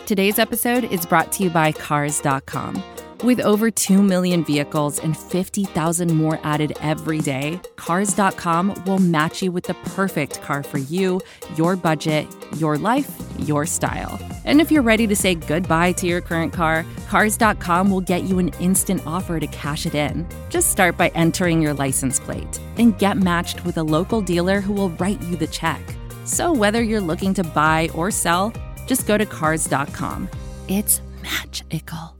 Today's episode is brought to you by Cars.com. With over 2 million vehicles and 50,000 more added every day, Cars.com will match you with the perfect car for you, your budget, your life, your style. And if you're ready to say goodbye to your current car, Cars.com will get you an instant offer to cash it in. Just start by entering your license plate and get matched with a local dealer who will write you the check. So whether you're looking to buy or sell, just go to Cars.com. It's magical.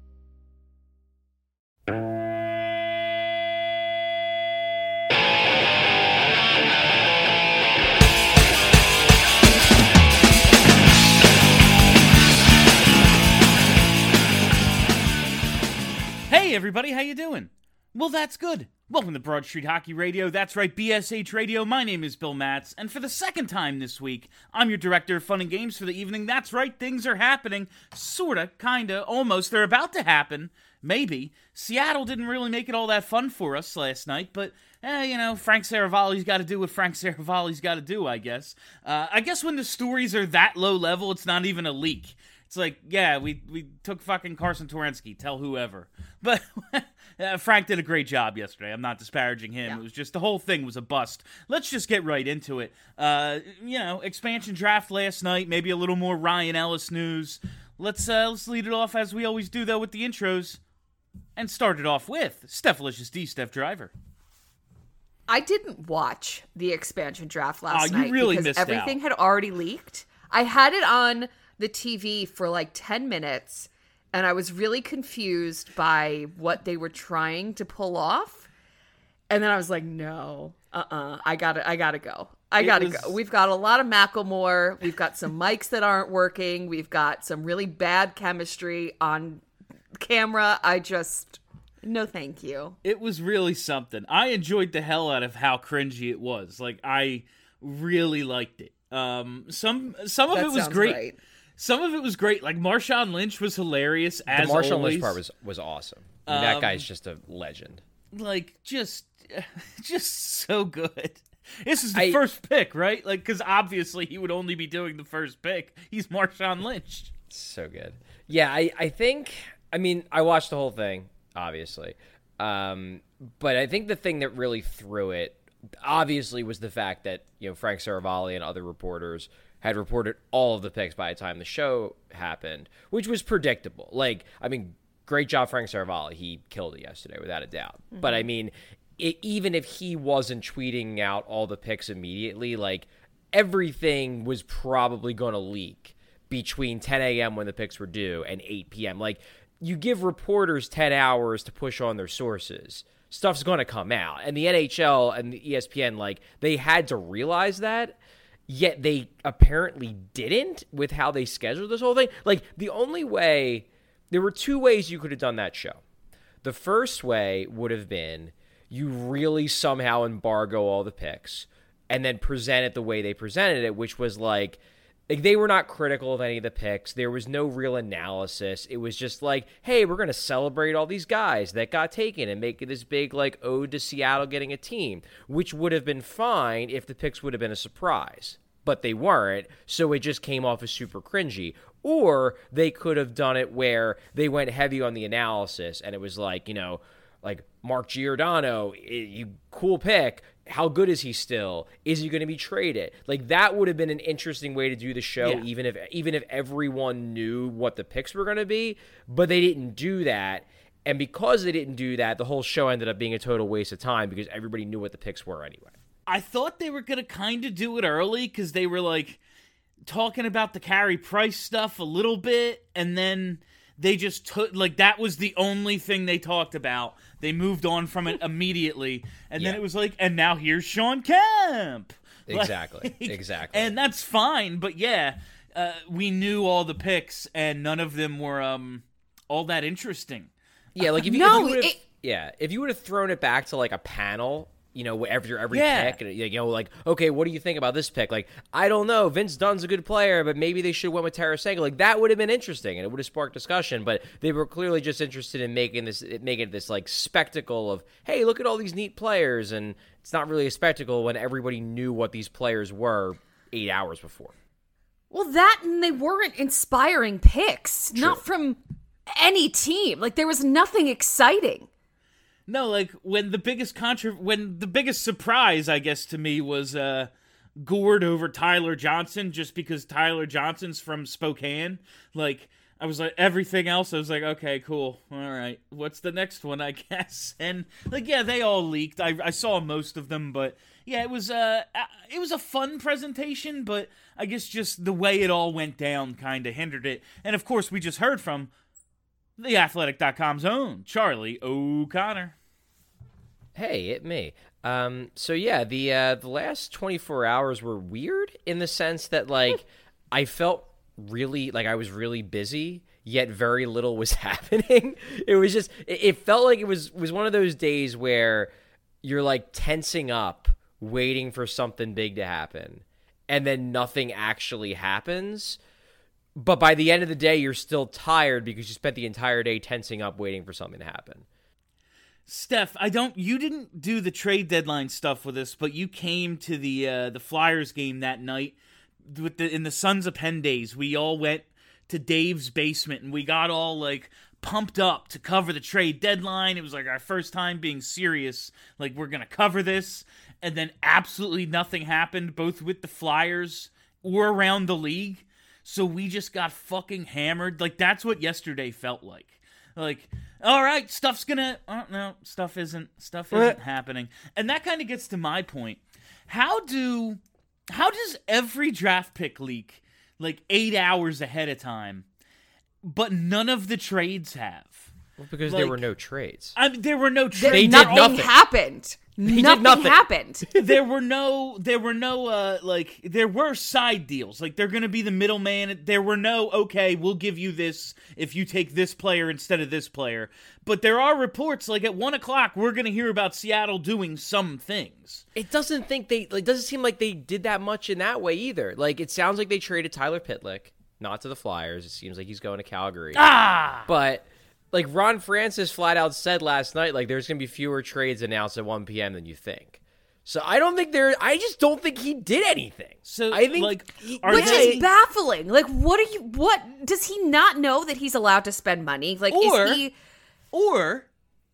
Hey everybody, how you doing? Well, that's good. Welcome to Broad Street Hockey Radio. That's right, BSH Radio. My name is Bill Matz, and for the second time this week, I'm your director of fun and games for the evening. That's right, things are happening. Sorta, kinda, almost. They're about to happen. Maybe. Seattle didn't really make it all that fun for us last night, but, Frank Saravalli's got to do what Frank Saravalli's got to do, I guess. I guess when the stories are that low level, it's not even a leak. It's like, yeah, we took fucking Carson Twarynski, tell whoever. But Frank did a great job yesterday. I'm not disparaging him. Yeah. It was just, the whole thing was a bust. Let's just get right into it. Expansion draft last night, maybe a little more Ryan Ellis news. Let's lead it off as we always do, though, with the intros. And start it off with Stephalicious D, Steph Driver. I didn't watch the expansion draft last night. You really because missed everything out. Had already leaked. I had it on the TV for like 10 minutes, and I was really confused by what they were trying to pull off. And then I was like, no, I gotta go. I gotta go. We've got a lot of Macklemore. We've got some mics that aren't working. We've got some really bad chemistry on camera. No, thank you. It was really something. I enjoyed the hell out of how cringy it was. Like, I really liked it. Some of it was great. Right. Some of it was great. Like, Marshawn Lynch was hilarious, as always. The Marshawn Lynch part was awesome. I mean, that guy's just a legend. Like, just so good. This is the first pick, right? Like, because obviously he would only be doing the first pick. He's Marshawn Lynch. So good. Yeah, I think, I watched the whole thing, obviously. But I think the thing that really threw it, obviously, was the fact that, Frank Saravalli and other reporters had reported all of the picks by the time the show happened, which was predictable. Great job, Frank Saravalli. He killed it yesterday, without a doubt. Mm-hmm. But, even if he wasn't tweeting out all the picks immediately, everything was probably going to leak between 10 a.m. when the picks were due and 8 p.m. You give reporters 10 hours to push on their sources, stuff's going to come out. And the NHL and the ESPN, they had to realize that. Yet they apparently didn't with how they scheduled this whole thing. The only way, there were two ways you could have done that show. The first way would have been you really somehow embargo all the picks and then present it the way they presented it, which was they were not critical of any of the picks. There was no real analysis. It was just hey, we're going to celebrate all these guys that got taken and make it this big ode to Seattle getting a team, which would have been fine if the picks would have been a surprise. But they weren't, so it just came off as super cringy. Or they could have done it where they went heavy on the analysis, and it was Mark Giordano, you cool pick. How good is he still? Is he going to be traded? That would have been an interesting way to do the show, yeah. even if everyone knew what the picks were going to be. But they didn't do that, and because they didn't do that, the whole show ended up being a total waste of time because everybody knew what the picks were anyway. I thought they were going to kind of do it early because they were talking about the Carey Price stuff a little bit, and then they just took, that was the only thing they talked about. They moved on from it immediately, and then it was and now here's Sean Kemp. Exactly. And that's fine, but we knew all the picks, and none of them were all that interesting. Yeah, if you would have thrown it back to a panel, every pick, and okay, what do you think about this pick? I don't know. Vince Dunn's a good player, but maybe they should have went with Tarasenko. That would have been interesting, and it would have sparked discussion. But they were clearly just interested in making this spectacle of, hey, look at all these neat players, and it's not really a spectacle when everybody knew what these players were 8 hours before. Well, that and they weren't inspiring picks, not from any team. Like, there was nothing exciting. No, like when the biggest surprise, I guess, to me was Gord over Tyler Johnson, just because Tyler Johnson's from Spokane. Like, I was like, everything else, I was like, okay, cool, all right, what's the next one, I guess? And like, yeah, they all leaked. I saw most of them, but yeah, it was a fun presentation, but I guess just the way it all went down kind of hindered it. And of course, we just heard from TheAthletic.com's own Charlie O'Connor. Hey, it me. So yeah, the last 24 hours were weird in the sense that like I felt really like I was really busy, yet very little was happening. It was just it felt like it was one of those days where you're like tensing up, waiting for something big to happen, and then nothing actually happens. But by the end of the day, you're still tired because you spent the entire day tensing up, waiting for something to happen. Steph, you didn't do the trade deadline stuff with us, but you came to the Flyers game that night in the Sons of Penn days. We all went to Dave's basement and we got all like pumped up to cover the trade deadline. It was like our first time being serious, like we're gonna cover this, and then absolutely nothing happened, both with the Flyers or around the league. So we just got fucking hammered. Like, that's what yesterday felt like. Like, all right, stuff isn't happening. And that kind of gets to my point. How does every draft pick leak like 8 hours ahead of time, but none of the trades have? Well, because like, there were no trades. I mean, there were no trades. They did nothing. Happened. Nothing happened. There were side deals. Like, they're going to be the middleman. There were no, okay, we'll give you this if you take this player instead of this player. But there are reports, like at 1 o'clock, we're going to hear about Seattle doing some things. It doesn't seem like they did that much in that way either. Like, it sounds like they traded Tyler Pitlick, not to the Flyers. It seems like he's going to Calgary. But like Ron Francis flat out said last night, like there's going to be fewer trades announced at 1 p.m. than you think. So I just don't think he did anything. So I think, like, which is baffling. Like, what does he not know that he's allowed to spend money? Like, or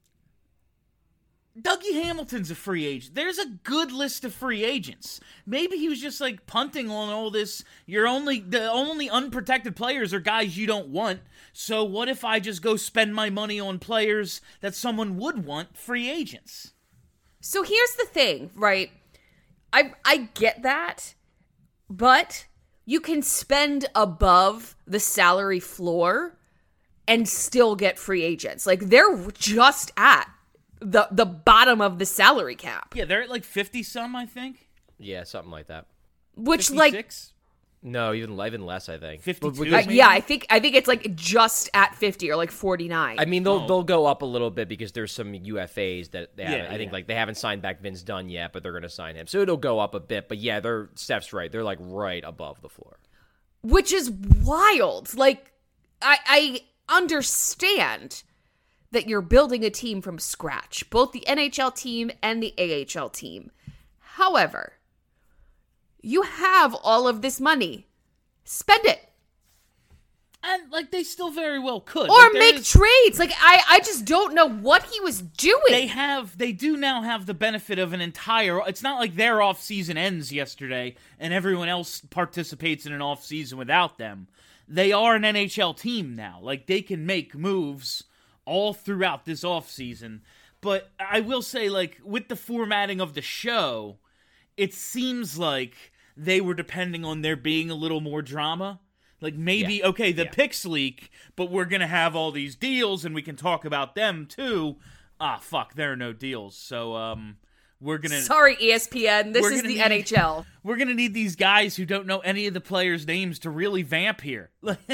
Dougie Hamilton's a free agent. There's a good list of free agents. Maybe he was just like punting on all this. The only unprotected players are guys you don't want. So what if I just go spend my money on players that someone would want, free agents? So here's the thing, right? I get that, but you can spend above the salary floor and still get free agents. Like, they're just at the bottom of the salary cap. Yeah, they're at like 50 some, I think. Yeah, something like that. Which 56? No, even less, I think. 52. Yeah, I think it's like just at 50 or like 49. I mean, they'll go up a little bit because there's some UFAs that they haven't. I think like they haven't signed back Vince Dunn yet, but they're going to sign him, so it'll go up a bit. But yeah, Steph's right. They're like right above the floor, which is wild. Like, I understand that you're building a team from scratch, both the NHL team and the AHL team. However, you have all of this money. Spend it. And, like, they still very well could. Or like, make trades. Like, I just don't know what he was doing. They do now have the benefit of an entire... It's not like their off-season ends yesterday and everyone else participates in an off-season without them. They are an NHL team now. Like, they can make moves all throughout this off-season. But I will say, like, with the formatting of the show, it seems like they were depending on there being a little more drama. Like, maybe, okay, the picks leak, but we're going to have all these deals, and we can talk about them, too. Fuck, there are no deals. So, we're going to... Sorry, ESPN, this is the NHL. We're going to need these guys who don't know any of the players' names to really vamp here.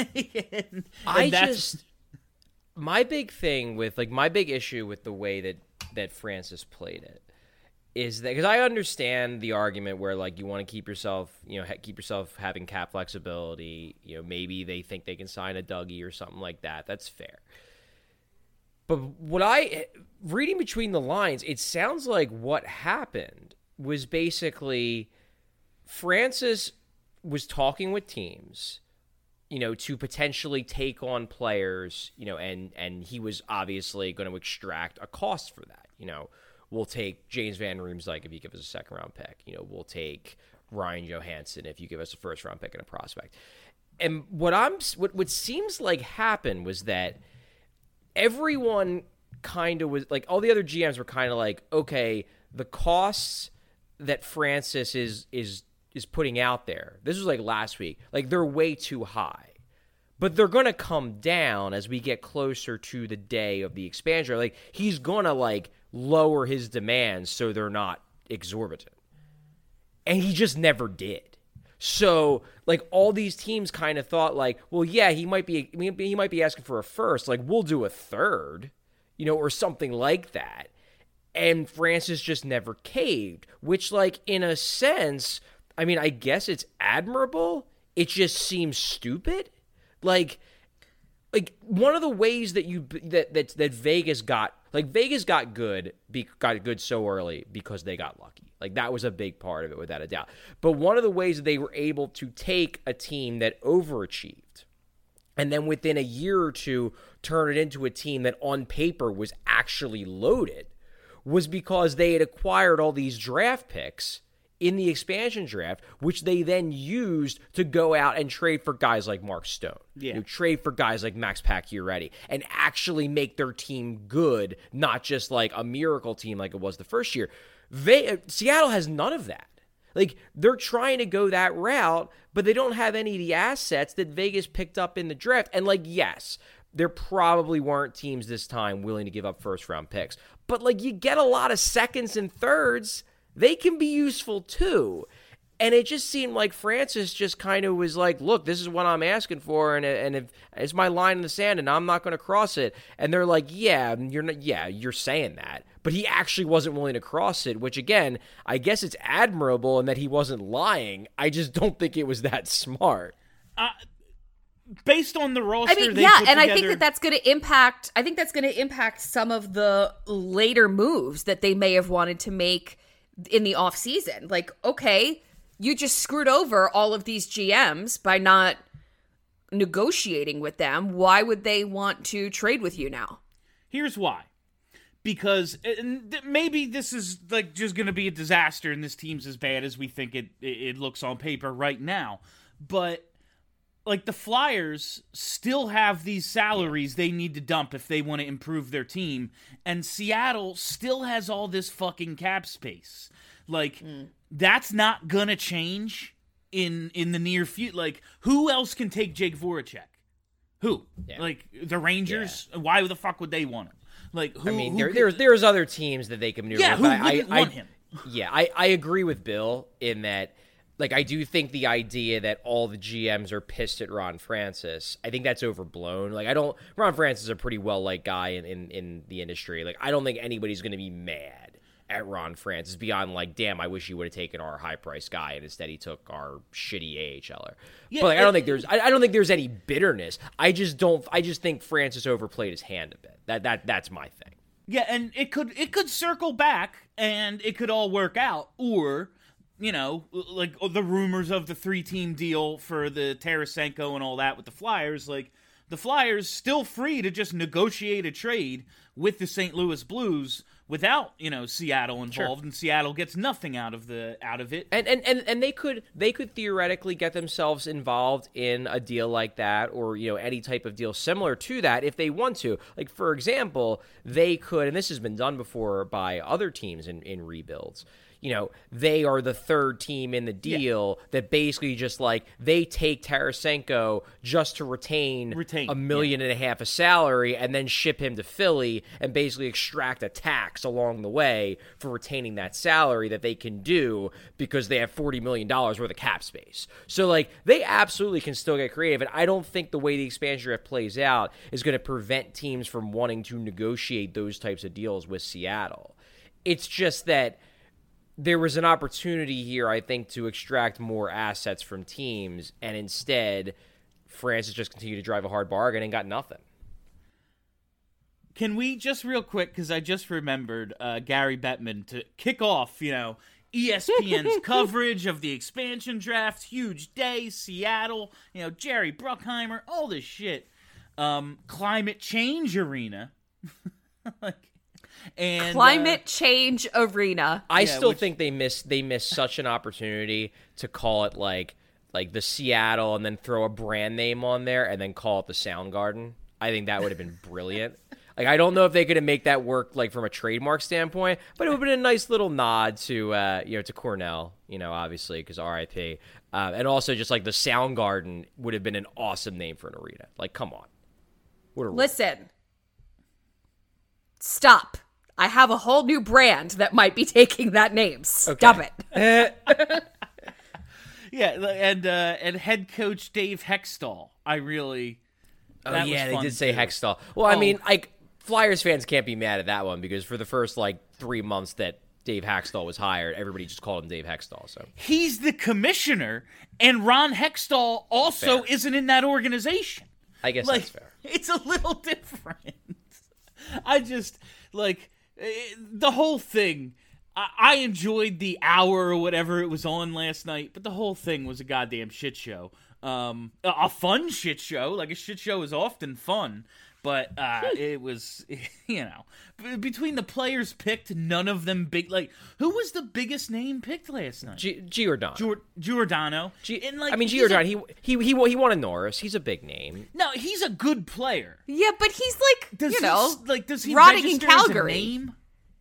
My big thing with, like, my big issue with the way that Francis played it is that, because I understand the argument where, like, you want to keep yourself having cap flexibility. You know, maybe they think they can sign a Dougie or something like that. That's fair. But reading between the lines, it sounds like what happened was basically Francis was talking with teams, to potentially take on players, and he was obviously going to extract a cost for that. We'll take James Van Riemsdyk if you give us a second-round pick. We'll take Ryan Johansson if you give us a first-round pick and a prospect. And what seems like happened was that everyone kind of was like, all the other GMs were kind of like, okay, the costs that Francis is putting out there, this was like last week, like they're way too high. But they're going to come down as we get closer to the day of the expansion. Like, he's going to, like, lower his demands so they're not exorbitant. And he just never did. So, like, all these teams kind of thought, like, well, yeah, he might be asking for a first. Like, we'll do a third, or something like that. And Francis just never caved, which, like, in a sense, I mean, I guess it's admirable. It just seems stupid. Like one of the ways that that Vegas got good so early because they got lucky. Like, that was a big part of it, without a doubt. But one of the ways that they were able to take a team that overachieved and then within a year or two turn it into a team that on paper was actually loaded was because they had acquired all these draft picks in the expansion draft, which they then used to go out and trade for guys like Mark Stone, trade for guys like Max Pacioretty, and actually make their team good, not just like a miracle team like it was the first year. Seattle has none of that. Like, they're trying to go that route, but they don't have any of the assets that Vegas picked up in the draft. And, like, yes, there probably weren't teams this time willing to give up first-round picks. But, like, you get a lot of seconds and thirds. They can be useful too. And it just seemed like Francis just kind of was like, look, this is what I'm asking for, and if it's my line in the sand, and I'm not going to cross it. And they're like, you're saying that. But he actually wasn't willing to cross it, which, again, I guess it's admirable in that he wasn't lying. I just don't think it was that smart. Based on the roster, I mean, I think that's going to impact. I think that's going to impact some of the later moves that they may have wanted to make in the off season. Like, okay, you just screwed over all of these GMs by not negotiating with them. Why would they want to trade with you now? Here's why. Because maybe this is like just going to be a disaster and this team's as bad as we think it looks on paper right now. But like, the Flyers still have these salaries they need to dump if they want to improve their team, and Seattle still has all this fucking cap space. Like, that's not gonna change in the near future. Like, who else can take Jake Voracek? Who? Yeah. Like, the Rangers? Yeah. Why the fuck would they want him? Like, who? I mean, there's other teams that they can maneuver. Yeah, who wouldn't want him? Yeah, I agree with Bill in that. Like, I do think the idea that all the GMs are pissed at Ron Francis, I think that's overblown. Like, Ron Francis is a pretty well-liked guy in the industry. Like, I don't think anybody's going to be mad at Ron Francis beyond, like, damn, I wish he would have taken our high-priced guy and instead he took our shitty AHLer. Yeah, but, like, I don't think there's any bitterness. I just think Francis overplayed his hand a bit. That's my thing. Yeah, and it could circle back and it could all work out, or, like the rumors of the 3-team deal for the Tarasenko and all that with the Flyers, like, the Flyers still free to just negotiate a trade with the St. Louis Blues without, Seattle involved, sure. And Seattle gets nothing out of it. And they could theoretically get themselves involved in a deal like that, or, any type of deal similar to that if they want to. Like, for example, they could, and this has been done before by other teams in rebuilds. They are the third team in the deal that basically just, like, they take Tarasenko just to retain $1.5 million of salary and then ship him to Philly and basically extract a tax along the way for retaining that salary that they can do because they have $40 million worth of cap space. So, like, they absolutely can still get creative, and I don't think the way the expansion draft plays out is going to prevent teams from wanting to negotiate those types of deals with Seattle. It's just that there was an opportunity here, I think, to extract more assets from teams, and instead, Francis just continued to drive a hard bargain and got nothing. Can we just real quick, because I just remembered Gary Bettman, to kick off, ESPN's coverage of the expansion draft, huge day, Seattle, Jerry Bruckheimer, all this shit. Climate change arena. Climate change arena. I still think they missed such an opportunity to call it like the Seattle and then throw a brand name on there and then call it the Soundgarden. I think that would have been brilliant. Like, I don't know if they could have make that work, like, from a trademark standpoint, but it would have been a nice little nod to, to Cornell, obviously, because RIP. And also just, like, the Soundgarden would have been an awesome name for an arena. Like, come on. Listen. Stop. I have a whole new brand that might be taking that name. Stop it. Yeah, and head coach Dave Hextall. They did say Hextall. Well, I mean, like, Flyers fans can't be mad at that one because for the first, 3 months that Dave Hextall was hired, everybody just called him Dave Hextall. So he's the commissioner, and Ron Hextall also isn't in that organization. I guess that's fair. It's a little different. I just, the whole thing, I enjoyed the hour or whatever it was on last night, but the whole thing was a goddamn shit show. A fun shit show. Like, a shit show is often fun, but it was, between the players picked, none of them big. Like, who was the biggest name picked last night? Giordano. Giordano. Giordano. He won a Norris. He's a big name. No, he's a good player. Yeah, but he's does he rotting in register as a Calgary. name?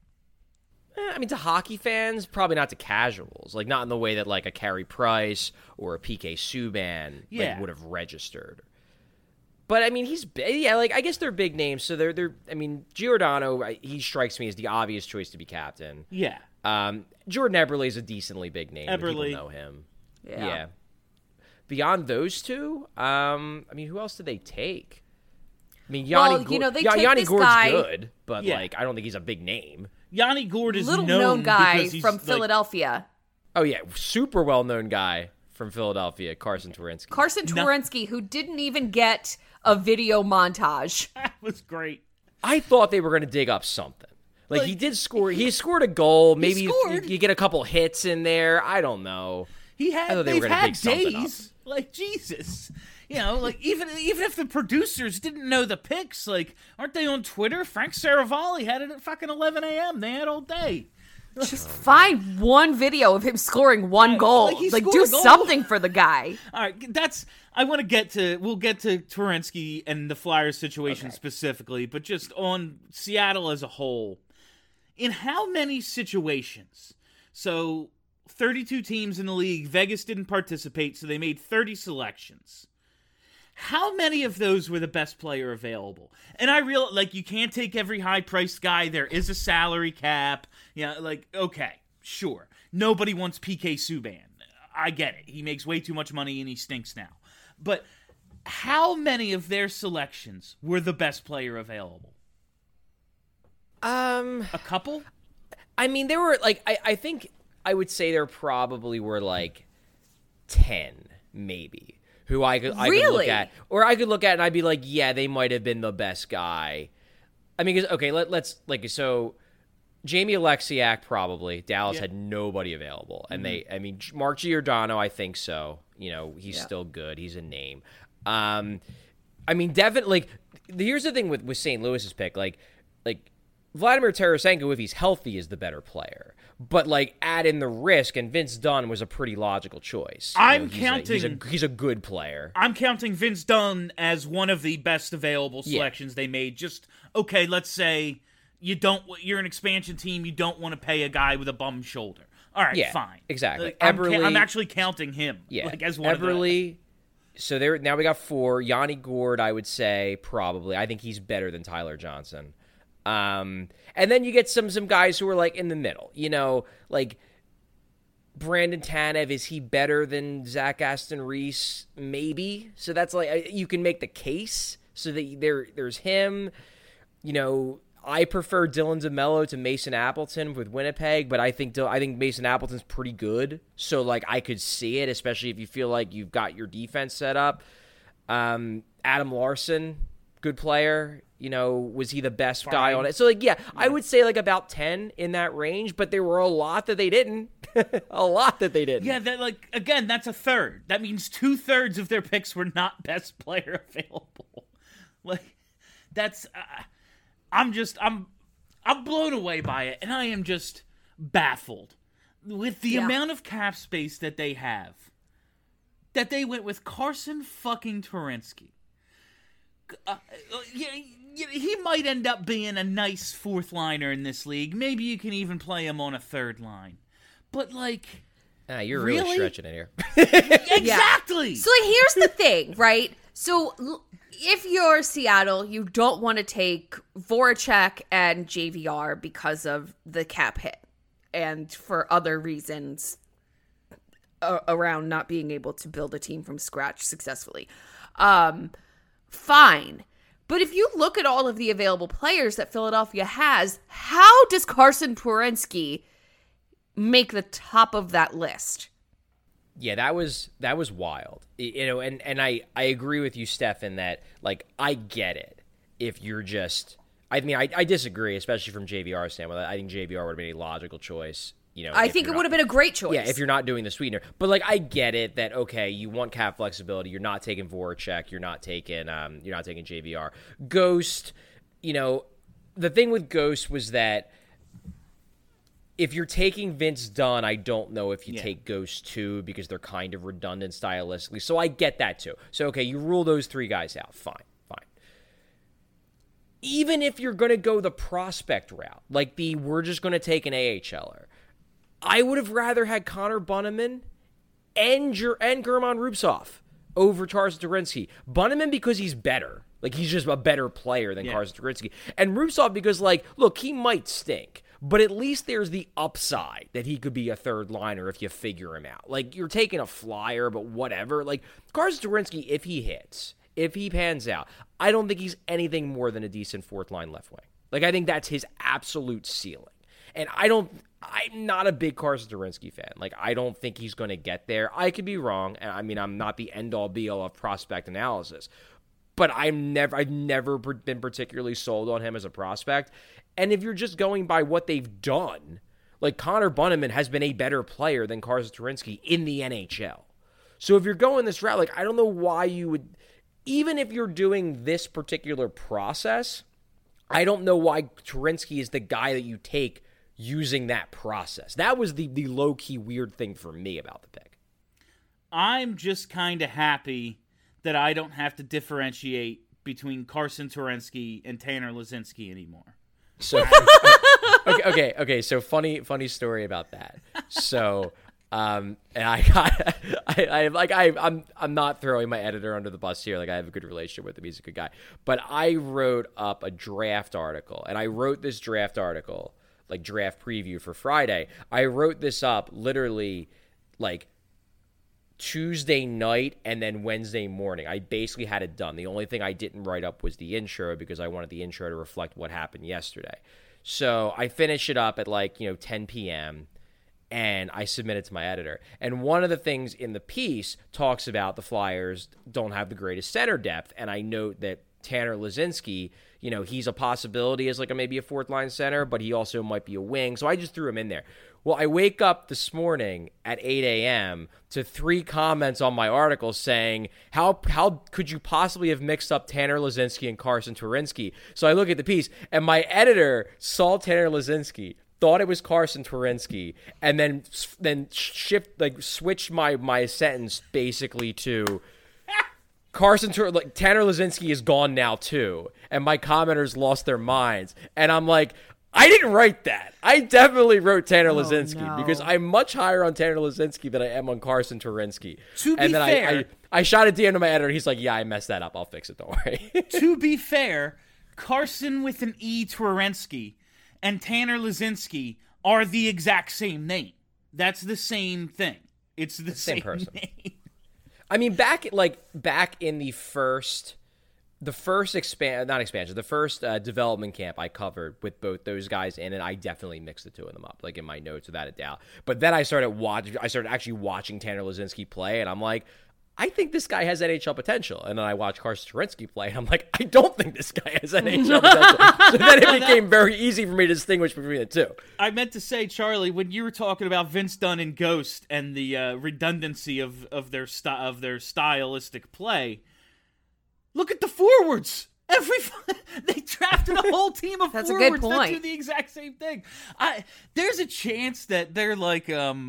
I mean, to hockey fans, probably not to casuals. Like, not in the way that, a Carey Price or a PK Subban would have registered. But, I mean, I guess they're big names. So, I mean, Giordano, he strikes me as the obvious choice to be captain. Yeah. Jordan Eberle is a decently big name. Eberle. People know him. Yeah. Beyond those two, I mean, who else did they take? I mean, Yanni Gourde's good, but, I don't think he's a big name. Yanni Gourde is little known guy he's from Philadelphia. Oh, yeah. Super well-known guy from Philadelphia, Carson Twarynski. Who didn't even get a video montage. That was great. I thought they were going to dig up something. He did score. He scored a goal. Maybe you get a couple hits in there. I don't know. They've had days. Jesus. Even if the producers didn't know the picks, aren't they on Twitter? Frank Saravalli had it at fucking 11 a.m. They had all day. Just find one video of him scoring one goal. Do something for the guy. All right, we'll get to Twarynski and the Flyers situation specifically, but just on Seattle as a whole. In how many situations? So 32 teams in the league, Vegas didn't participate, so they made 30 selections. How many of those were the best player available? And I realize, you can't take every high-priced guy. There is a salary cap. Okay, sure. Nobody wants PK Subban. I get it. He makes way too much money and he stinks now. But how many of their selections were the best player available? A couple? I mean, there were, I think I would say there probably were, 10, maybe. Who I could look at. Or I could look at and I'd be like, yeah, they might have been the best guy. I mean, let's so Jamie Alexiak probably. Dallas had nobody available. And Mark Giordano, I think so. He's still good. He's a name. Definitely, here's the thing with St. Louis's pick. Vladimir Tarasenko, if he's healthy, is the better player. But, add in the risk, and Vince Dunn was a pretty logical choice. He's a good player. I'm counting Vince Dunn as one of the best available selections they made. Just, let's say you're an expansion team, you don't want to pay a guy with a bum shoulder. All right, fine. Exactly. I'm actually counting him as one Eberle, of the... So now we got 4. Yanni Gourde, I would say, probably. I think he's better than Tyler Johnson. And then you get some guys who are in the middle, Brandon Tanev. Is he better than Zach Aston Reese? Maybe. So that's you can make the case so that there's him. I prefer Dylan DeMello to Mason Appleton with Winnipeg, but I think Mason Appleton's pretty good. So I could see it, especially if you feel like you've got your defense set up. Adam Larson, good player. Was he the best guy on it? So, I would say like about 10 in that range, but there were a lot that they didn't. A lot that they didn't. Yeah, again, that's a third. That means 2/3 of their picks were not best player available. That's I'm blown away by it, and I am just baffled with the amount of cap space that they have. That they went with Carson fucking Turinsky. He might end up being a nice fourth liner in this league. Maybe you can even play him on a third line. But you're really stretching it here. Exactly. Yeah. So here's the thing, right? So if you're Seattle, you don't want to take Voracek and JVR because of the cap hit and for other reasons around not being able to build a team from scratch successfully. Fine. But if you look at all of the available players that Philadelphia has, how does Carson Turinsky make the top of that list? Yeah, that was wild. And I agree with you, Steph, in that, I get it. If you're just, I disagree, especially from JVR's standpoint. I think JVR would have been a logical choice. I think it would have been a great choice. Yeah, if you're not doing the sweetener. But I get it that okay, you want cap flexibility. You're not taking Voracek. You're not taking JVR. Ghost. The thing with Ghost was that if you're taking Vince Dunn, I don't know if you take Ghost too because they're kind of redundant stylistically. So I get that too. So okay, you rule those three guys out. Fine. Even if you're going to go the prospect route, we're just going to take an AHLer. I would have rather had Connor Bunnaman and German Rubtsov over Carson Turinsky. Bunnaman because he's better. He's just a better player than Carson Turinsky. And Rubtsov because, look, he might stink, but at least there's the upside that he could be a third liner if you figure him out. You're taking a flyer, but whatever. Carson Turinsky, if he hits, if he pans out, I don't think he's anything more than a decent fourth line left wing. I think that's his absolute ceiling. And I'm not a big Carson Turinsky fan. I don't think he's going to get there. I could be wrong. And I'm not the end-all be-all of prospect analysis. But I've never been particularly sold on him as a prospect. And if you're just going by what they've done, Connor Bunnaman has been a better player than Carson Turinsky in the NHL. So if you're going this route, I don't know why you would, even if you're doing this particular process, I don't know why Turinsky is the guy that you take using that process. That was the low-key weird thing for me about the pick. I'm just kind of happy that I don't have to differentiate between Carson Turinsky and Tanner Laczynski anymore. So okay. So funny story about that. So and I'm not throwing my editor under the bus here. I have a good relationship with him. He's a good guy. But I wrote up a draft article, and I wrote this draft article, draft preview for Friday. I wrote this up literally Tuesday night and then Wednesday morning. I basically had it done. The only thing I didn't write up was the intro because I wanted the intro to reflect what happened yesterday. So I finished it up at 10 p.m. and I submit it to my editor. And one of the things in the piece talks about the Flyers don't have the greatest center depth, and I note that Tanner Laczynski, he's a possibility as maybe a fourth line center, but he also might be a wing. So I just threw him in there. Well, I wake up this morning at 8 a.m. to 3 comments on my article saying, how could you possibly have mixed up Tanner Laczynski and Carson Turinsky? So I look at the piece, and my editor saw Tanner Laczynski, thought it was Carson Turinsky, and then switched my sentence basically to Tanner Laczynski is gone now too, and my commenters lost their minds. And I'm I didn't write that. I definitely wrote Tanner Laczynski because I'm much higher on Tanner Laczynski than I am on Carson Turinsky. To be fair, I shot a DM to my editor. He's like, "Yeah, I messed that up. I'll fix it. Don't worry." To be fair, Carson with an E Turinsky and Tanner Laczynski are the exact same name. That's the same thing. It's the same person. Name. Back in the first development camp I covered with both those guys in, and I definitely mixed the two of them up, in my notes without a doubt. But then I started actually watching Tanner Laczynski play, and I'm like, I think this guy has NHL potential. And then I watch Carson Wentz play, and I'm like, I don't think this guy has NHL potential. So then it became very easy for me to distinguish between the two. I meant to say, Charlie, when you were talking about Vince Dunn and Ghost and the redundancy of their stylistic play, look at the forwards. They drafted a whole team of That's a forwards good point. that do the exact same thing. There's a chance that they're like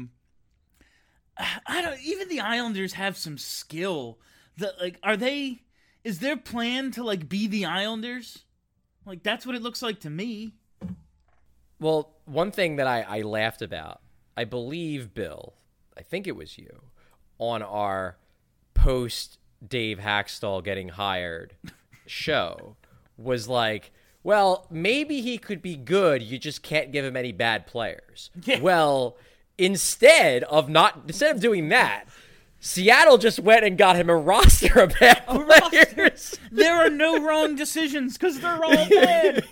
even the Islanders have some skill. That like is their plan to like be the Islanders? Like that's what it looks like to me. Well, one thing that I laughed about, I believe, Bill, I think it was you, on our post Dave Hackstall getting hired show, was like, well, maybe he could be good, you just can't give him any bad players. Yeah. Well, instead of doing that, Seattle just went and got him a roster of bad players. There are no wrong decisions because they're all bad.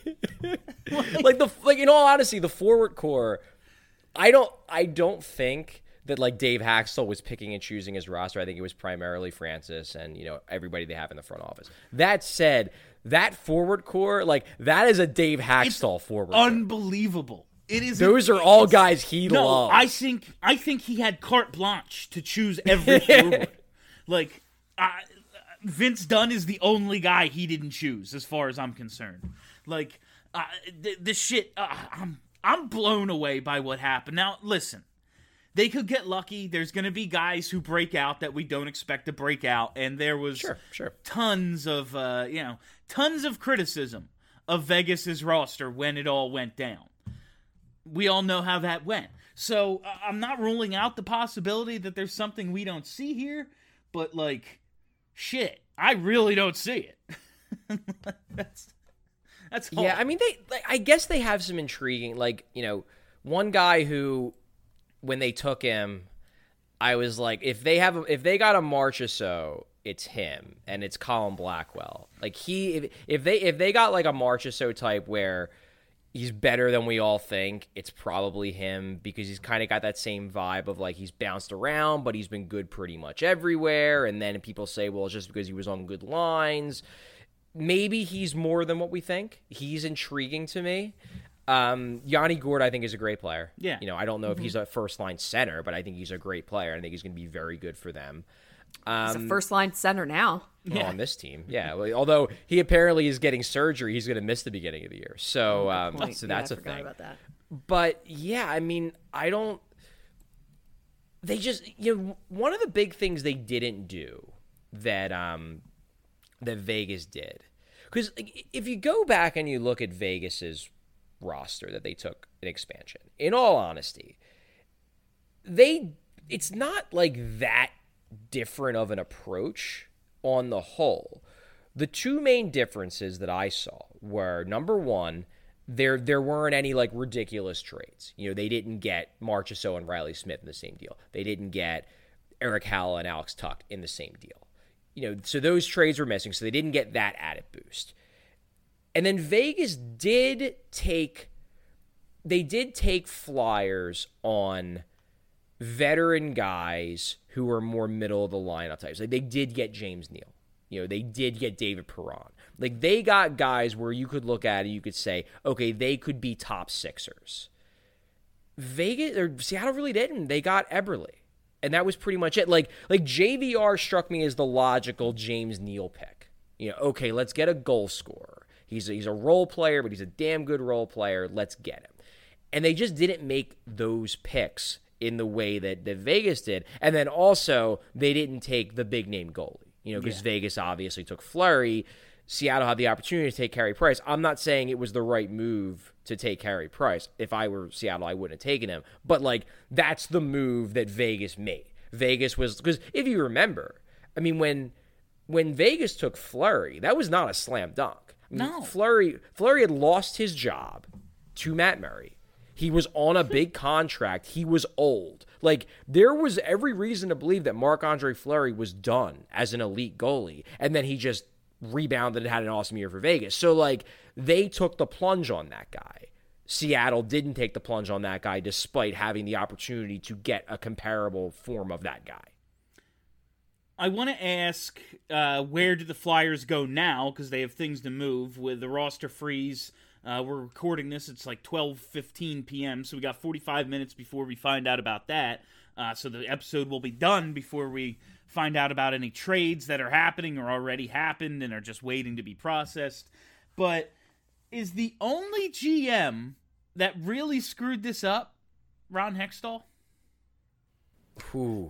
like in all honesty, the forward core, I don't think that like Dave Hackstall was picking and choosing his roster. I think it was primarily Francis and everybody they have in the front office. That said, that forward core, like that is a Dave Hackstall forward. Unbelievable. It is. Those are all guys he loves. I think he had carte blanche to choose every forward. Like Vince Dunn is the only guy he didn't choose, as far as I'm concerned. Like this shit, I'm blown away by what happened. Now listen, they could get lucky. There's going to be guys who break out that we don't expect to break out, and there was tons of criticism of Vegas's roster when it all went down. We all know how that went. So I'm not ruling out the possibility that there's something we don't see here, but like, shit, I really don't see it. That's all. Yeah. I mean, I guess they have some intriguing, one guy who, when they took him, I was like, if they got a Marchessault, it's him, and it's Colin Blackwell. Like if they got like a Marchessault type where he's better than we all think, it's probably him, because he's kind of got that same vibe of like he's bounced around, but he's been good pretty much everywhere. And then people say, well, it's just because he was on good lines. Maybe he's more than what we think. He's intriguing to me. Yanni Gourde, I think, is a great player. Yeah. I don't know if he's a first-line center, but I think he's a great player. I think he's going to be very good for them. He's a first-line center now. Well, on this team, yeah. Well, although he apparently is getting surgery, he's going to miss the beginning of the year. So, so that's a thing. About that. But yeah, I mean, they just, one of the big things they didn't do that that Vegas did, because if you go back and you look at Vegas's roster that they took in expansion, in all honesty, it's not like that different of an approach on the whole. The two main differences that I saw were, number one, there weren't any like ridiculous trades. They didn't get Marchessault and Riley Smith in the same deal. They didn't get Eric Halla and Alex Tuch in the same deal. So those trades were missing, so they didn't get that added boost. And then Vegas did take flyers on veteran guys who were more middle of the lineup types. Like they did get James Neal. They did get David Perron. Like they got guys where you could look at it, you could say, okay, they could be top sixers. Seattle really didn't. They got Eberle. And that was pretty much it. Like JVR struck me as the logical James Neal pick. Okay, let's get a goal scorer. He's a role player, but he's a damn good role player. Let's get him. And they just didn't make those picks in the way that Vegas did. And then also, they didn't take the big-name goalie. Because Vegas obviously took Fleury. Seattle had the opportunity to take Carey Price. I'm not saying it was the right move to take Carey Price. If I were Seattle, I wouldn't have taken him. But, that's the move that Vegas made. Vegas was... Because if you remember, I mean, when Vegas took Fleury, that was not a slam dunk. No. Fleury had lost his job to Matt Murray. He was on a big contract. He was old. There was every reason to believe that Marc-Andre Fleury was done as an elite goalie, and then he just rebounded and had an awesome year for Vegas. So, they took the plunge on that guy. Seattle didn't take the plunge on that guy despite having the opportunity to get a comparable form of that guy. I want to ask, where do the Flyers go now? Because they have things to move with the roster freeze. We're recording this. It's like 12:15 p.m., so we got 45 minutes before we find out about that. So the episode will be done before we find out about any trades that are happening or already happened and are just waiting to be processed. But is the only GM that really screwed this up Ron Hextall? Ooh.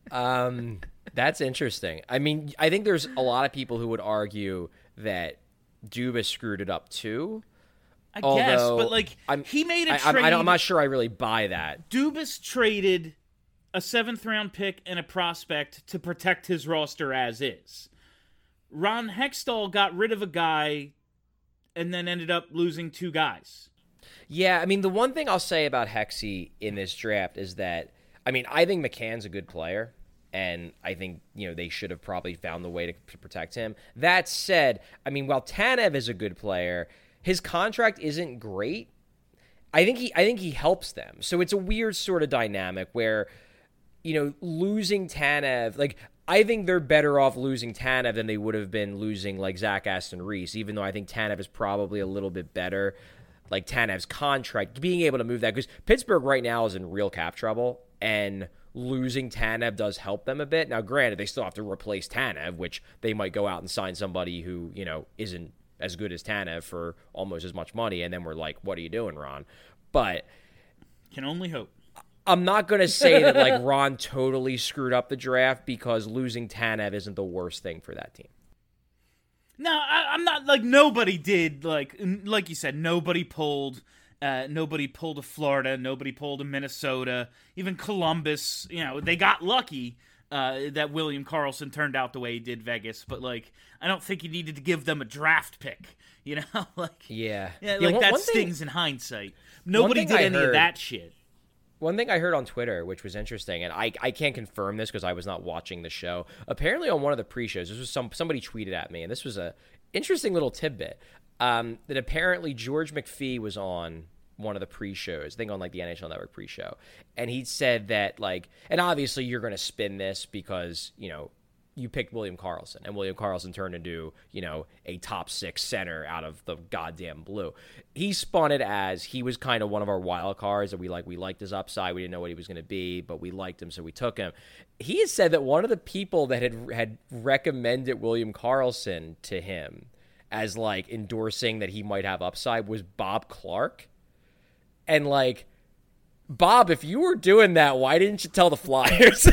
That's interesting. I mean, I think there's a lot of people who would argue that Dubas screwed it up too. I guess, but like he made a trade. I'm not sure I really buy that. Dubas traded a 7th-round pick and a prospect to protect his roster as is. Ron Hextall got rid of a guy and then ended up losing 2 guys. Yeah, I mean, the one thing I'll say about Hexy in this draft is that, I mean, I think McCann's a good player, and I think, they should have probably found the way to protect him. That said, I mean, while Tanev is a good player, his contract isn't great. I think he helps them. So it's a weird sort of dynamic where, losing Tanev, like, I think they're better off losing Tanev than they would have been losing, like, Zach Aston Reese, even though I think Tanev is probably a little bit better. Like, Tanev's contract, being able to move that, because Pittsburgh right now is in real cap trouble, and losing Tanev does help them a bit. Now, granted, they still have to replace Tanev, which they might go out and sign somebody who, isn't as good as Tanev for almost as much money, and then we're like, what are you doing, Ron? But can only hope. I'm not going to say that, like, Ron totally screwed up the draft, because losing Tanev isn't the worst thing for that team. No, I'm not, like, nobody did, like you said, nobody pulled a Florida, nobody pulled a Minnesota, even Columbus, they got lucky that William Karlsson turned out the way he did Vegas, but, like, I don't think you needed to give them a draft pick, like, that stings in hindsight. Nobody did any of that shit. One thing I heard on Twitter, which was interesting, and I can't confirm this because I was not watching the show. Apparently, on one of the pre-shows, this was somebody tweeted at me, and this was a interesting little tidbit. That apparently George McPhee was on one of the pre-shows, I think on like the NHL Network pre-show, and he said that, like, and obviously you're going to spin this because you picked William Karlsson, and William Karlsson turned into, a top 6 center out of the goddamn blue. He spun it as he was kind of one of our wild cards that we liked his upside. We didn't know what he was going to be, but we liked him, so we took him. He has said that one of the people that had recommended William Karlsson to him as, like, endorsing that he might have upside was Bob Clark. And, like, Bob, if you were doing that, why didn't you tell the Flyers?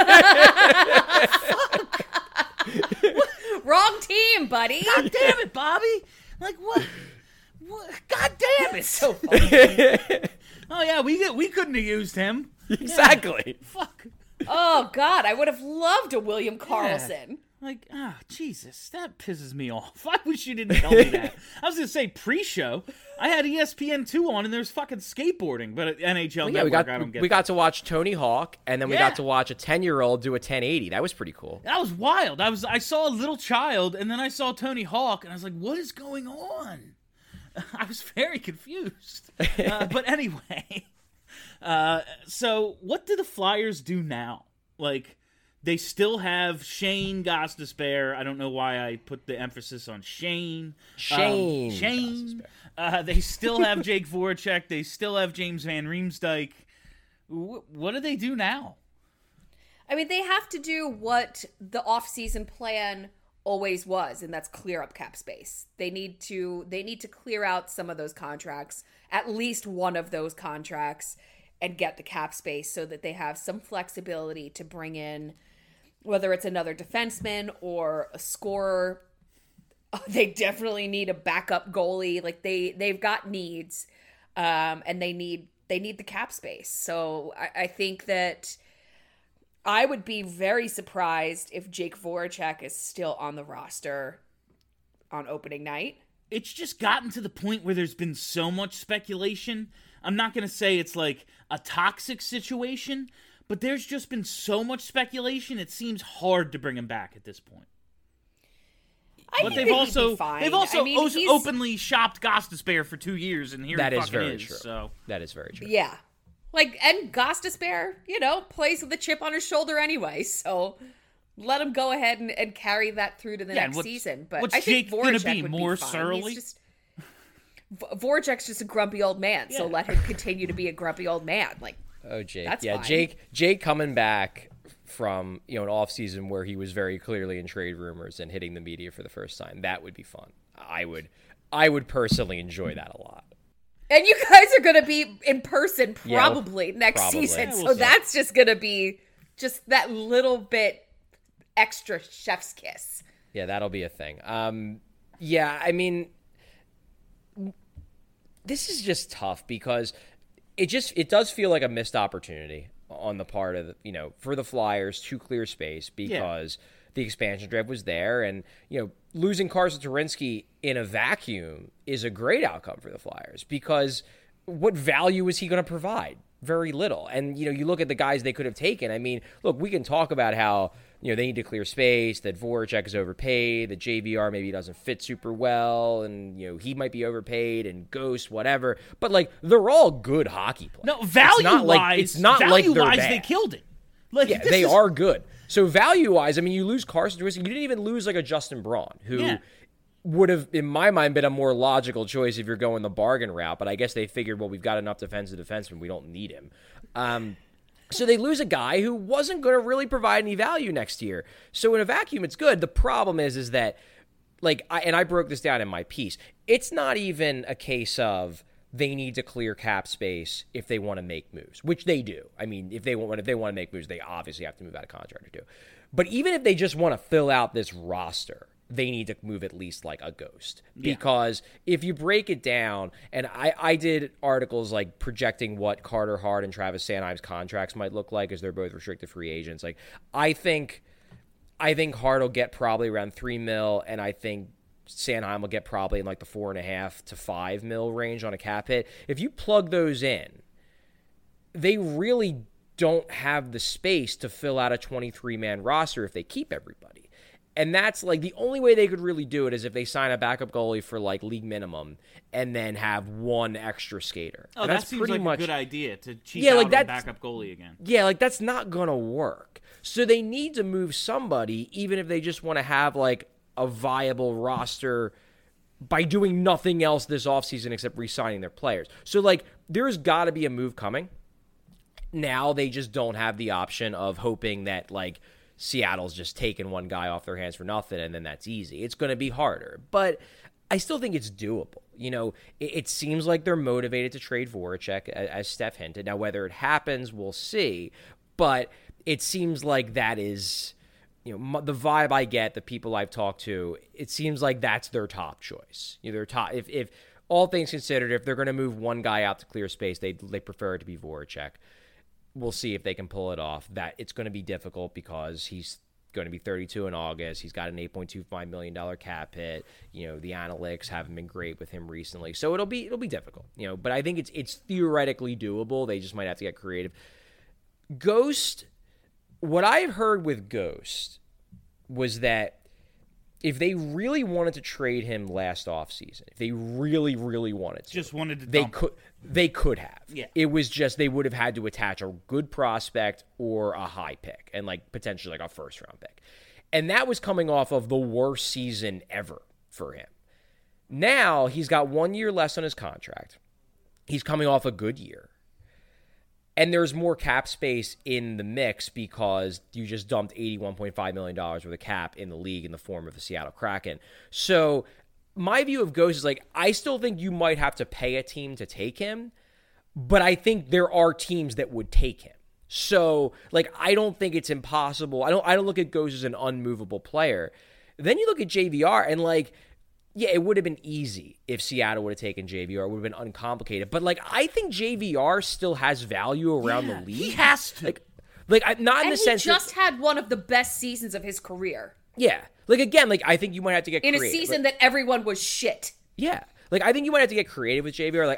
Wrong team, buddy. God damn it, Bobby. Like, what? God damn it. So funny. Oh, yeah, we couldn't have used him. Exactly. Yeah. Fuck. Oh, God, I would have loved a William Karlsson. Yeah. Like, Jesus, that pisses me off. I wish you didn't tell me that. I was going to say pre-show. I had ESPN2 on, and there's fucking skateboarding, but at NHL Network, I don't get we got to watch Tony Hawk, and then we got to watch a 10-year-old do a 1080. That was pretty cool. That was wild. I saw a little child, and then I saw Tony Hawk, and I was like, what is going on? I was very confused. But anyway, so what do the Flyers do now? Like, they still have Shane Gostisbehere. I don't know why I put the emphasis on Shane. Shane. They still have Jake Voracek. They still have James Van Riemsdyk. What do they do now? I mean, they have to do what the off-season plan always was, and that's clear up cap space. They need to clear out some of those contracts, at least one of those contracts, and get the cap space so that they have some flexibility to bring in, whether it's another defenseman or a scorer. They definitely need a backup goalie. Like, they've got needs, and they need the cap space. So I think that I would be very surprised if Jake Voracek is still on the roster on opening night. It's just gotten to the point where there's been so much speculation. I'm not going to say it's like a toxic situation, but there's just been so much speculation, it seems hard to bring him back at this point. But they've also openly shopped Gostisbehere for 2 years, and here that he is fucking very is. true. So. That is very true. Yeah. Like, and Gostisbehere, plays with a chip on his shoulder anyway, so let him go ahead and carry that through to the next season. But what's I think Jake gonna Voracek be, would more be fine. surly? Voracek's just a grumpy old man, so let him continue to be a grumpy old man. Like, oh, Jake, that's yeah, fine. Jake coming back from an off season where he was very clearly in trade rumors and hitting the media for the first time. That would be fun. I would personally enjoy that a lot. And you guys are going to be in person probably next probably. season. Yeah, So we'll see. that's just going to be just that little bit extra chef's kiss. Yeah, that'll be a thing. Yeah, I mean, this is just tough because it does feel like a missed opportunity on the part of for the Flyers to clear space because the expansion draft was there, and losing Carson Turinsky in a vacuum is a great outcome for the Flyers because what value is he going to provide? Very little. And you look at the guys they could have taken. I mean, look, we can talk about how they need to clear space, that Voracek is overpaid, that JVR maybe doesn't fit super well, and he might be overpaid, and Ghost, whatever. But they're all good hockey players. No, value-wise, it's not like they're bad. They killed it. Yeah, they are good. So value-wise, I mean, you lose Carson Turinsky. You didn't even lose a Justin Braun, who would have, in my mind, been a more logical choice if you're going the bargain route. But I guess they figured, well, we've got enough defensive defensemen. We don't need him. So they lose a guy who wasn't going to really provide any value next year. So in a vacuum, it's good. The problem is that, I broke this down in my piece. It's not even a case of they need to clear cap space if they want to make moves, which they do. I mean, if they want to make moves, they obviously have to move out of contract or two. But even if they just want to fill out this roster, they need to move at least like a Ghost. Because if you break it down, and I did articles projecting what Carter Hart and Travis Sanheim's contracts might look like as they're both restricted free agents. I think Hart will get probably around $3 million, and I think Sanheim will get probably in the $4.5 to $5 million range on a cap hit. If you plug those in, they really don't have the space to fill out a 23-man roster if they keep everybody. And that's the only way they could really do it is if they sign a backup goalie for league minimum and then have one extra skater. Oh, and that that's seems pretty like much a good idea to cheap out on backup goalie again. Yeah, that's not going to work. So they need to move somebody, even if they just want to have a viable roster by doing nothing else this offseason except re-signing their players. So there's got to be a move coming. Now they just don't have the option of hoping that Seattle's just taking one guy off their hands for nothing, and then that's easy. It's going to be harder, but I still think it's doable. It seems like they're motivated to trade Voracek, as Steph hinted. Now, whether it happens, we'll see, but it seems like that is, the vibe I get, the people I've talked to, it seems like that's their top choice. Their top, if all things considered, if they're going to move one guy out to clear space, they prefer it to be Voracek. We'll see if they can pull it off. That it's going to be difficult because he's going to be 32 in August. He's got an $8.25 million cap hit. The analytics haven't been great with him recently, so it'll be difficult. But I think it's theoretically doable. They just might have to get creative. Ghost. What I've heard with Ghost was that if they really wanted to trade him last offseason, if they really, really wanted to, they could have. Yeah. It was just they would have had to attach a good prospect or a high pick and potentially a first-round pick. And that was coming off of the worst season ever for him. Now he's got 1 year less on his contract. He's coming off a good year. And there's more cap space in the mix because you just dumped $81.5 million worth of cap in the league in the form of the Seattle Kraken. So my view of Ghost is I still think you might have to pay a team to take him, but I think there are teams that would take him. So I don't think it's impossible. I don't look at Ghost as an unmovable player. Then you look at JVR and yeah, it would have been easy if Seattle would have taken JVR. It would have been uncomplicated. But, I think JVR still has value around the league. He has to. Not in the sense he just had one of the best seasons of his career. Yeah. Again, I think you might have to get creative. In a season that everyone was shit. Yeah. I think you might have to get creative with JVR.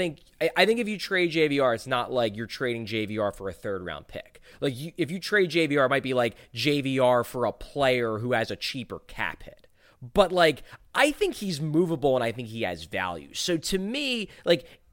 I think if you trade JVR, it's not you're trading JVR for a third-round pick. If you trade JVR, it might be JVR for a player who has a cheaper cap hit. But, I think he's movable and I think he has value. So, to me,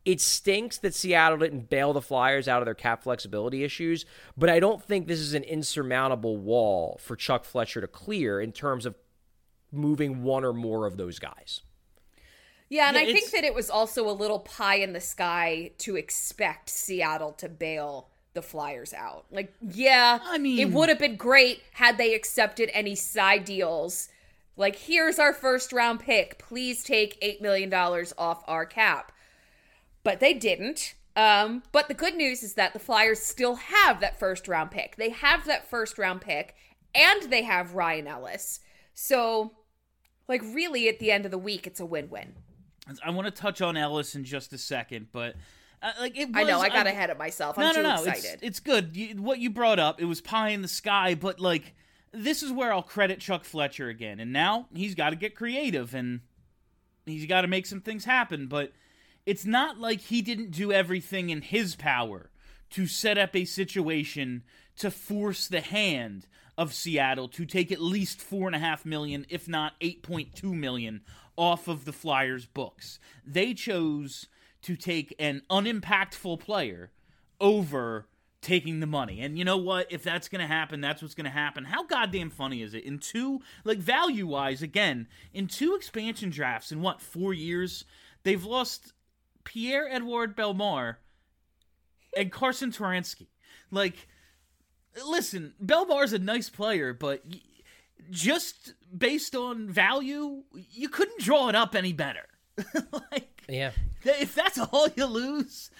it stinks that Seattle didn't bail the Flyers out of their cap flexibility issues, but I don't think this is an insurmountable wall for Chuck Fletcher to clear in terms of moving one or more of those guys. Yeah, and I think that it was also a little pie in the sky to expect Seattle to bail the Flyers out. Like, yeah, I mean, it would have been great had they accepted any side deals. Like, here's our first round pick. Please take $8 million off our cap. But they didn't. But the good news is that the Flyers still have that first round pick. They have that first round pick, and they have Ryan Ellis. So, like, really, at the end of the week, it's a win-win. I want to touch on Ellis in just a second, but it was, I know, I got ahead of myself. I'm too excited. It's good. What you brought up, it was pie in the sky, but, like, this is where I'll credit Chuck Fletcher again. And now he's got to get creative, and he's got to make some things happen, but it's not like he didn't do everything in his power to set up a situation to force the hand of Seattle to take at least $4.5 million, if not $8.2 million, off of the Flyers' books. They chose to take an unimpactful player over taking the money. And you know what? If that's going to happen, that's what's going to happen. How goddamn funny is it? In two, like, value-wise, again, in 2 expansion drafts in, 4 years, they've lost Pierre-Edouard Bellemare and Carson Turansky. Like, listen, Bellemar's a nice player, but just based on value, you couldn't draw it up any better. Like, yeah. If that's all you lose,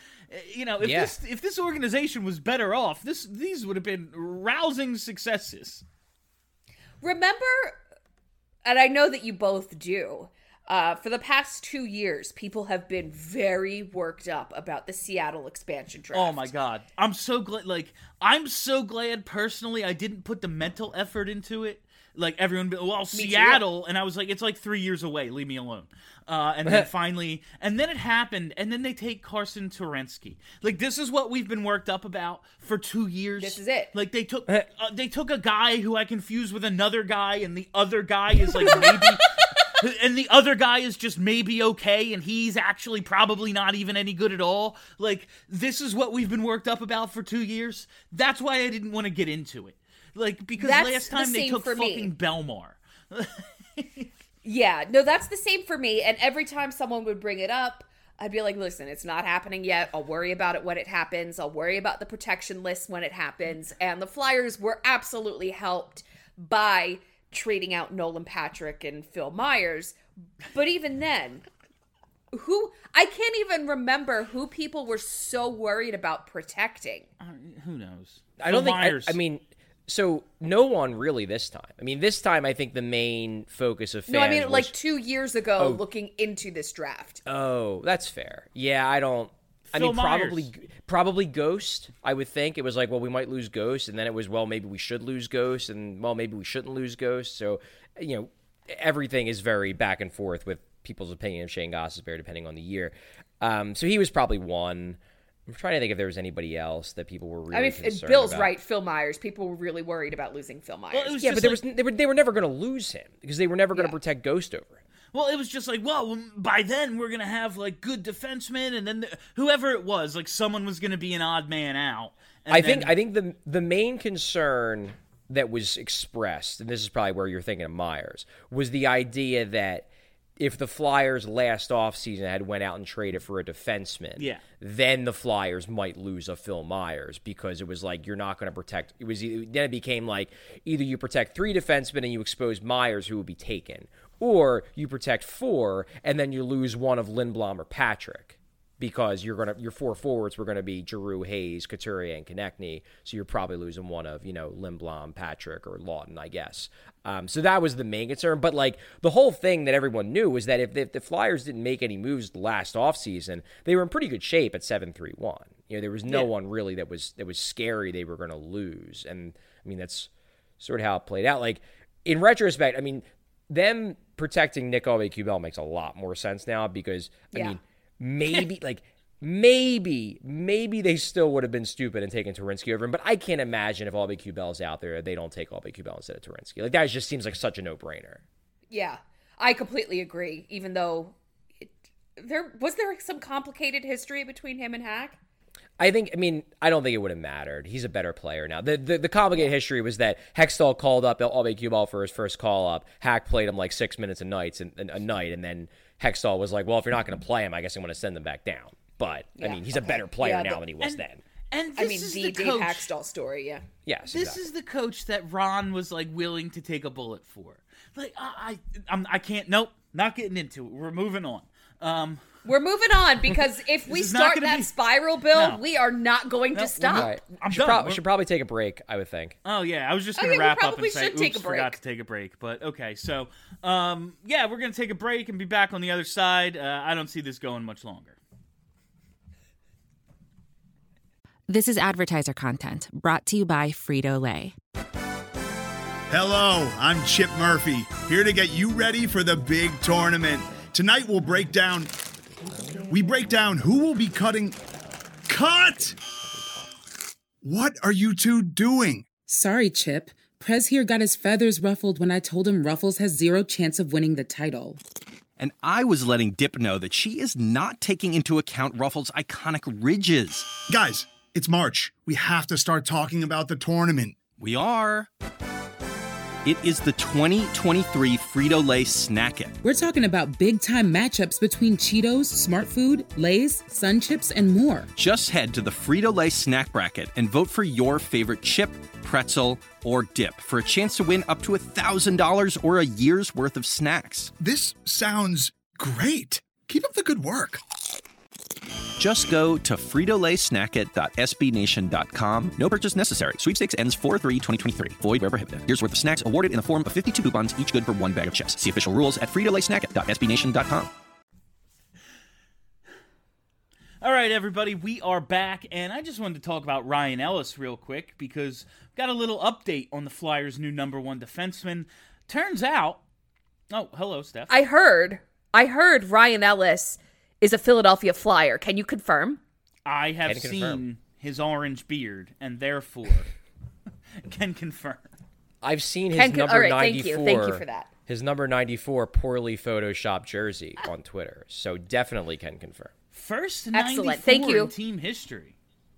if this organization was better off, these would have been rousing successes. Remember, and I know that you both do, for the past 2 years, people have been very worked up about the Seattle expansion draft. Oh my God. I'm so glad, personally I didn't put the mental effort into it. Like, everyone, Seattle, and I was like, it's like 3 years away, leave me alone. And then finally, and then it happened, and then they take Carson Turansky. Like, this is what we've been worked up about for 2 years. This is it. Like, they took a guy who I confused with another guy, and the other guy is like maybe... And the other guy is just maybe okay, and he's actually probably not even any good at all. Like, this is what we've been worked up about for 2 years. That's why I didn't want to get into it. Like, because last time they took fucking Bellemare. Yeah, no, that's the same for me. And every time someone would bring it up, I'd be like, listen, it's not happening yet. I'll worry about it when it happens. I'll worry about the protection list when it happens. And the Flyers were absolutely helped by trading out Nolan Patrick and Phil Myers. But even then, I can't even remember who people were so worried about protecting. Who knows? I don't think, I mean, so no one really this time. I mean, this time I think the main focus of fans No, I mean, was, like 2 years ago, looking into this draft. Oh, that's fair. Yeah, I don't... Phil probably Ghost, I would think. It was like, well, we might lose Ghost, and then it was, well, maybe we should lose Ghost, and, well, maybe we shouldn't lose Ghost. So, everything is very back and forth with people's opinion of Shane Gostisbehere depending on the year. So he was probably one. I'm trying to think if there was anybody else that people were really concerned Bill's about. right, Phil Myers. People were really worried about losing Phil Myers. Well, but they were never going to lose him because they were never going to protect Ghost over him. Well, it was just like, well, by then we're going to have, like, good defensemen, and then whoever it was, like, someone was going to be an odd man out. I think the main concern that was expressed, and this is probably where you're thinking of Myers, was the idea that if the Flyers last offseason had went out and traded for a defenseman, then the Flyers might lose a Phil Myers because it was like you're not going to protect. Then it became like either you protect 3 defensemen and you expose Myers, who would be taken, or you protect 4 and then you lose one of Lindblom or Patrick because your 4 forwards were going to be Giroux, Hayes, Couturier, and Konechny, so you're probably losing one of Lindblom, Patrick, or Lawton, I guess. So that was the main concern. But like the whole thing that everyone knew was that if the Flyers didn't make any moves last offseason, they were in pretty good shape at 7-3-1. There was no one really that was scary they were going to lose, and I mean that's sort of how it played out. Like in retrospect, I mean them protecting Nick Aube-Kubel makes a lot more sense now because I mean maybe like. Maybe they still would have been stupid and taken Turinsky over him, but I can't imagine if Aube-Kubel's out there, they don't take Aube-Kubel instead of Turinsky. Like, that just seems like such a no-brainer. Yeah, I completely agree, even though was there some complicated history between him and Hack? I don't think it would have mattered. He's a better player now. The complicated history was that Hextall called up Albe Cuball for his first call up. Hack played him like 6 minutes a night, and then Hextall was like, well, if you're not going to play him, I guess I'm going to send him back down. But, he's a better player now than he was then. And this is the Dave coach. Hackstall story, yeah. Yes, This is the coach that Ron was like willing to take a bullet for. Like I can't. Nope, not getting into it. We're moving on. We're moving on because if we start that spiral build, we are not going to stop. Right. I'm should done. should probably take a break, I would think. Oh yeah, I was just gonna wrap up and say, take a break. Forgot to take a break. But okay, so yeah, we're gonna take a break and be back on the other side. I don't see this going much longer. This is advertiser content brought to you by Frito-Lay. Hello, I'm Chip Murphy, here to get you ready for the big tournament. Tonight we break down who will be cutting. Cut! What are you two doing? Sorry, Chip. Prez here got his feathers ruffled when I told him Ruffles has zero chance of winning the title. And I was letting Dip know that she is not taking into account Ruffles' iconic ridges. Guys, it's March. We have to start talking about the tournament. We are. It is the 2023 Frito-Lay Snack It. We're talking about big-time matchups between Cheetos, Smart Food, Lay's, Sun Chips, and more. Just head to the Frito-Lay Snack Bracket and vote for your favorite chip, pretzel, or dip for a chance to win up to $1,000 or a year's worth of snacks. This sounds great. Keep up the good work. Just go to fritolaysnackit.sbnation.com. No purchase necessary. Sweepstakes ends 4/3/2023. Void where prohibited. Year's worth of snacks awarded in the form of 52 coupons, each good for one bag of chips. See official rules at fritolaysnackit.sbnation.com. All right, everybody, we are back, and I just wanted to talk about Ryan Ellis real quick because we've got a little update on the Flyers' new number one defenseman. Turns out, oh, hello, Steph. I heard Ryan Ellis is a Philadelphia Flyer. Can you confirm? I have seen his orange beard, and therefore can confirm. I've seen his number all right, 94. Thank you for that. His number 94 poorly photoshopped jersey on Twitter. So definitely can confirm. First Excellent. 94 Thank you. in team history.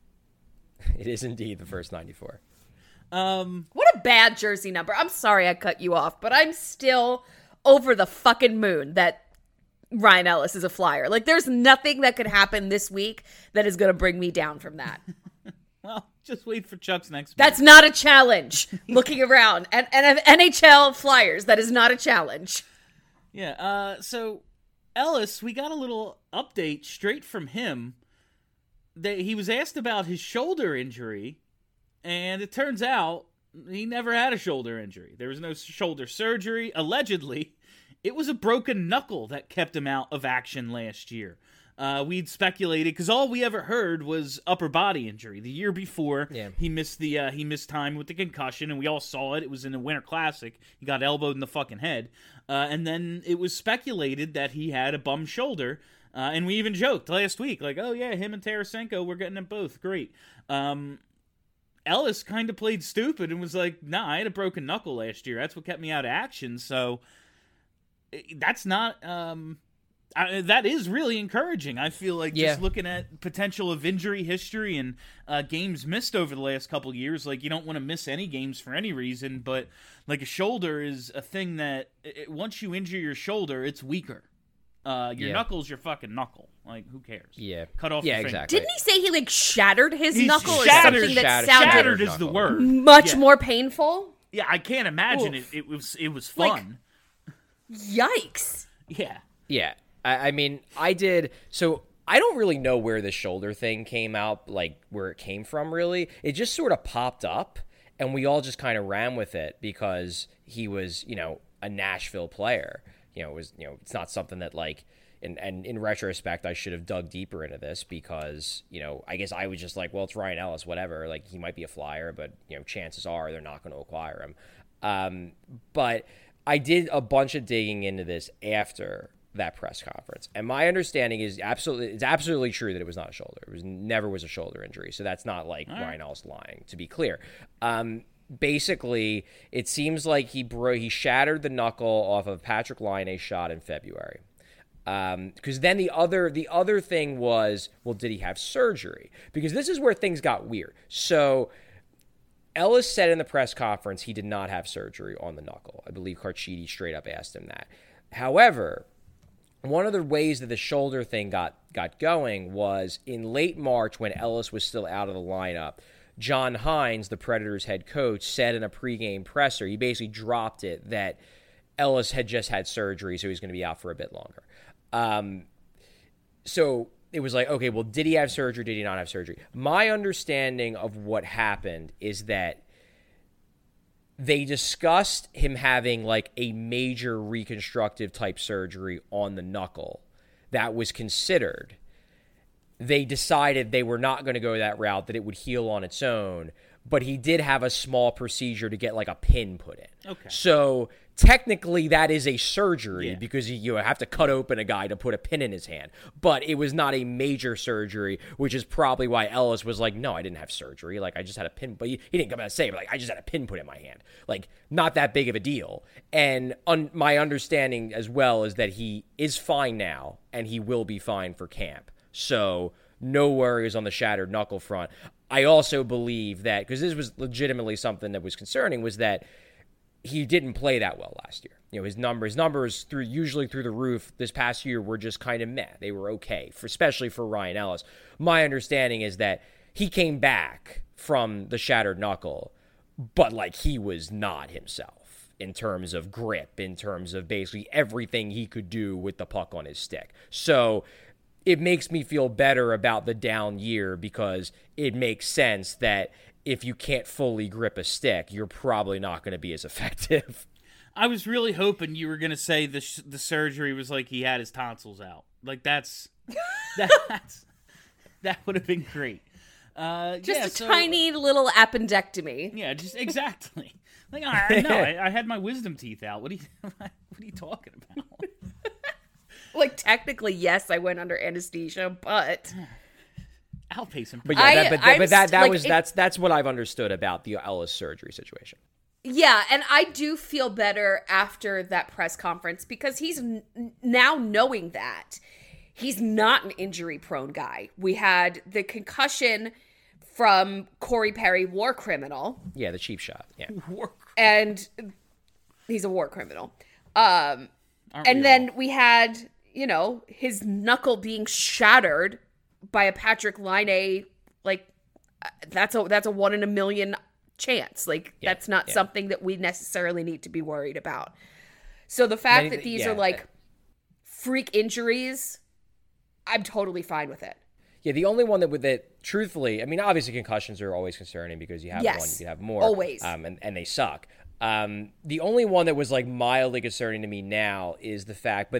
It is indeed the first 94. What a bad jersey number. I'm sorry I cut you off, but I'm still over the fucking moon that Ryan Ellis is a Flyer. Like, there's nothing that could happen this week that is going to bring me down from that. Well, just wait for Chuck's next week. That's not a challenge. Looking around. And NHL Flyers, that is not a challenge. Yeah, so Ellis, we got a little update straight from him. That he was asked about his shoulder injury, and it turns out he never had a shoulder injury. There was no shoulder surgery. Allegedly, it was a broken knuckle that kept him out of action last year. We'd speculated because all we ever heard was upper body injury. The year before, he missed time with the concussion, and we all saw it. It was in the Winter Classic. He got elbowed in the fucking head, and then it was speculated that he had a bum shoulder. And we even joked last week, like, "Oh yeah, him and Tarasenko, we're getting them both great." Ellis kind of played stupid and was like, "Nah, I had a broken knuckle last year. That's what kept me out of action." So that's not. That is really encouraging. I feel like just looking at potential of injury history and games missed over the last couple years, like, you don't want to miss any games for any reason, but like a shoulder is a thing that once you injure your shoulder, it's weaker. Your knuckle's your fucking knuckle. Like, who cares? Yeah. Cut off your finger. Exactly. Didn't he say he, like, shattered his knuckle or shattered, something that sounded shattered is the word. much more painful? Yeah, I can't imagine it. It was fun. Yikes. Yeah. Yeah. I mean, I did. So I don't really know where the shoulder thing came out, like where it came from, really. It just sort of popped up, and we all just kind of ran with it because he was, a Nashville player. It's not something that, like, and in retrospect, I should have dug deeper into this because, I guess I was just like, well, it's Ryan Ellis, whatever. Like, he might be a Flyer, but, chances are they're not going to acquire him. But I did a bunch of digging into this after that press conference, and my understanding is it's absolutely true that it was not a shoulder. It never was a shoulder injury, so that's not like Ryan Ellis lying, to be clear. Basically, it seems like he shattered the knuckle off of Patrick Laine's shot in February. Because then the other thing was, well, did he have surgery? Because this is where things got weird. So Ellis said in the press conference he did not have surgery on the knuckle. I believe Carchidi straight up asked him that. However, one of the ways that the shoulder thing got going was in late March when Ellis was still out of the lineup. John Hines, the Predators head coach, said in a pregame presser, he basically dropped it, that Ellis had just had surgery, so he's going to be out for a bit longer. So it was like, okay, well, did he have surgery? Did he not have surgery? My understanding of what happened is that they discussed him having like a major reconstructive type surgery on the knuckle that was considered. They decided they were not going to go that route, that it would heal on its own, but he did have a small procedure to get like a pin put in. Okay. So technically that is a surgery because you have to cut open a guy to put a pin in his hand, but it was not a major surgery, which is probably why Ellis was like, no, I didn't have surgery. Like, I just had a pin, but he didn't come out and say, but like, I just had a pin put in my hand. Like, not that big of a deal. And my understanding as well is that he is fine now and he will be fine for camp. So no worries on the shattered knuckle front. I also believe that, because this was legitimately something that was concerning, was that he didn't play that well last year. You know, his numbers usually through the roof this past year were just kind of meh. They were okay, especially for Ryan Ellis. My understanding is that he came back from the shattered knuckle, but like he was not himself in terms of grip, in terms of basically everything he could do with the puck on his stick. So it makes me feel better about the down year because it makes sense that if you can't fully grip a stick, you're probably not going to be as effective. I was really hoping you were going to say the surgery was like he had his tonsils out. Like that would have been great. Tiny little appendectomy. Yeah, just exactly. Like I had my wisdom teeth out. What are you talking about? Like, technically, yes, I went under anesthesia, but outpacing. But yeah, that's what I've understood about the Ellis surgery situation. Yeah, and I do feel better after that press conference because he's now knowing that he's not an injury-prone guy. We had the concussion from Corey Perry, war criminal. Yeah, the cheap shot. Yeah, and he's a war criminal. And then we had, you know, his knuckle being shattered by a Patrick Laine. Like, that's a 1 in a million chance. Like, that's not something that we necessarily need to be worried about. So the fact that these are like freak injuries, I'm totally fine with it. Yeah, the only one that truthfully, I mean, obviously concussions are always concerning because you have one, you can have more. Always. And they suck. The only one that was like mildly concerning to me now is the fact,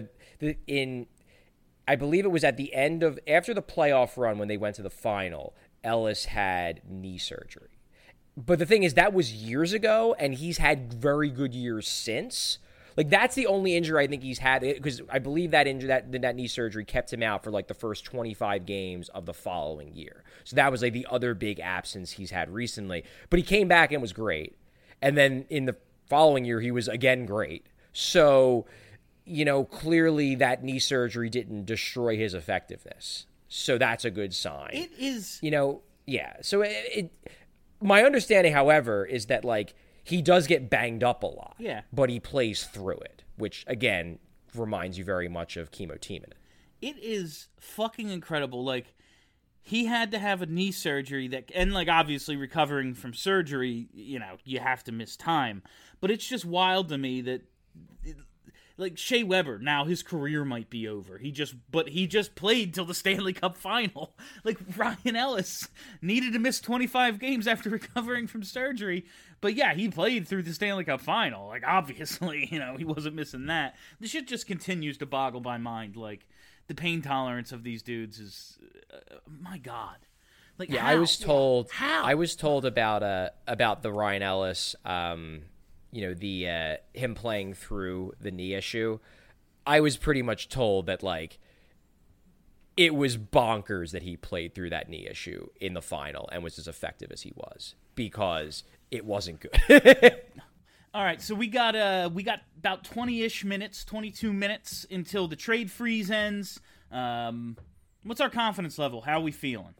I believe it was at the end of, after the playoff run when they went to the final, Ellis had knee surgery. But the thing is, that was years ago, and he's had very good years since. Like, that's the only injury I think he's had, because I believe that injury, that knee surgery kept him out for like the first 25 games of the following year. So that was like the other big absence he's had recently. But he came back and was great. And then in the following year, he was again great. So, you know, clearly that knee surgery didn't destroy his effectiveness. So that's a good sign. It is. You know, yeah. So my understanding, however, is that like he does get banged up a lot. Yeah. But he plays through it, which again reminds you very much of Kimmo Timonen. It is fucking incredible. Like, he had to have a knee surgery and like obviously recovering from surgery, you know, you have to miss time. But it's just wild to me that like Shea Weber, now his career might be over. He just played till the Stanley Cup final. Like, Ryan Ellis needed to miss 25 games after recovering from surgery. But yeah, he played through the Stanley Cup final. Like, obviously, you know, he wasn't missing that. The shit just continues to boggle my mind. Like, the pain tolerance of these dudes is, my God. Like, yeah, how? I was told. How? I was told about the Ryan Ellis, you know, the him playing through the knee issue. I was pretty much told that like it was bonkers that he played through that knee issue in the final and was as effective as he was because it wasn't good. All right, so we got about 20-ish minutes, 22 minutes until the trade freeze ends. What's our confidence level? How are we feeling?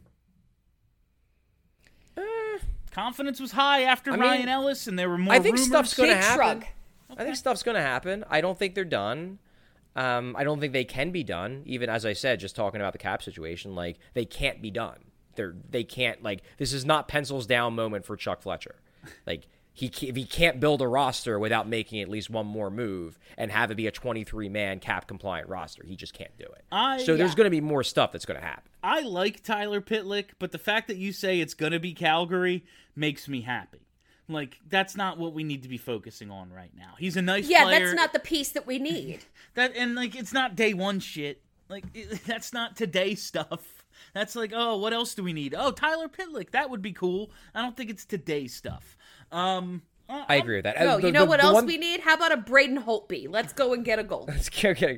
Confidence was high after Ryan Ellis, and there were more rumors. I think stuff's going to happen. Shrug. I think stuff's going to happen. I don't think they're done. I don't think they can be done. Even as I said, just talking about the cap situation, like they can't be done. They can't, like, this is not pencils down moment for Chuck Fletcher. Like, if he can't build a roster without making at least one more move and have it be a 23-man cap-compliant roster, he just can't do it. So there's going to be more stuff that's going to happen. I like Tyler Pitlick, but the fact that you say it's going to be Calgary makes me happy. Like, that's not what we need to be focusing on right now. He's a nice player. Yeah, that's not the piece that we need. It's not day one shit. Like, that's not today stuff. That's like, oh, what else do we need? Oh, Tyler Pitlick, that would be cool. I don't think it's today stuff. I agree with that. No, you know what else we need? How about a Braden Holtby? Let's go and get a goal. Okay.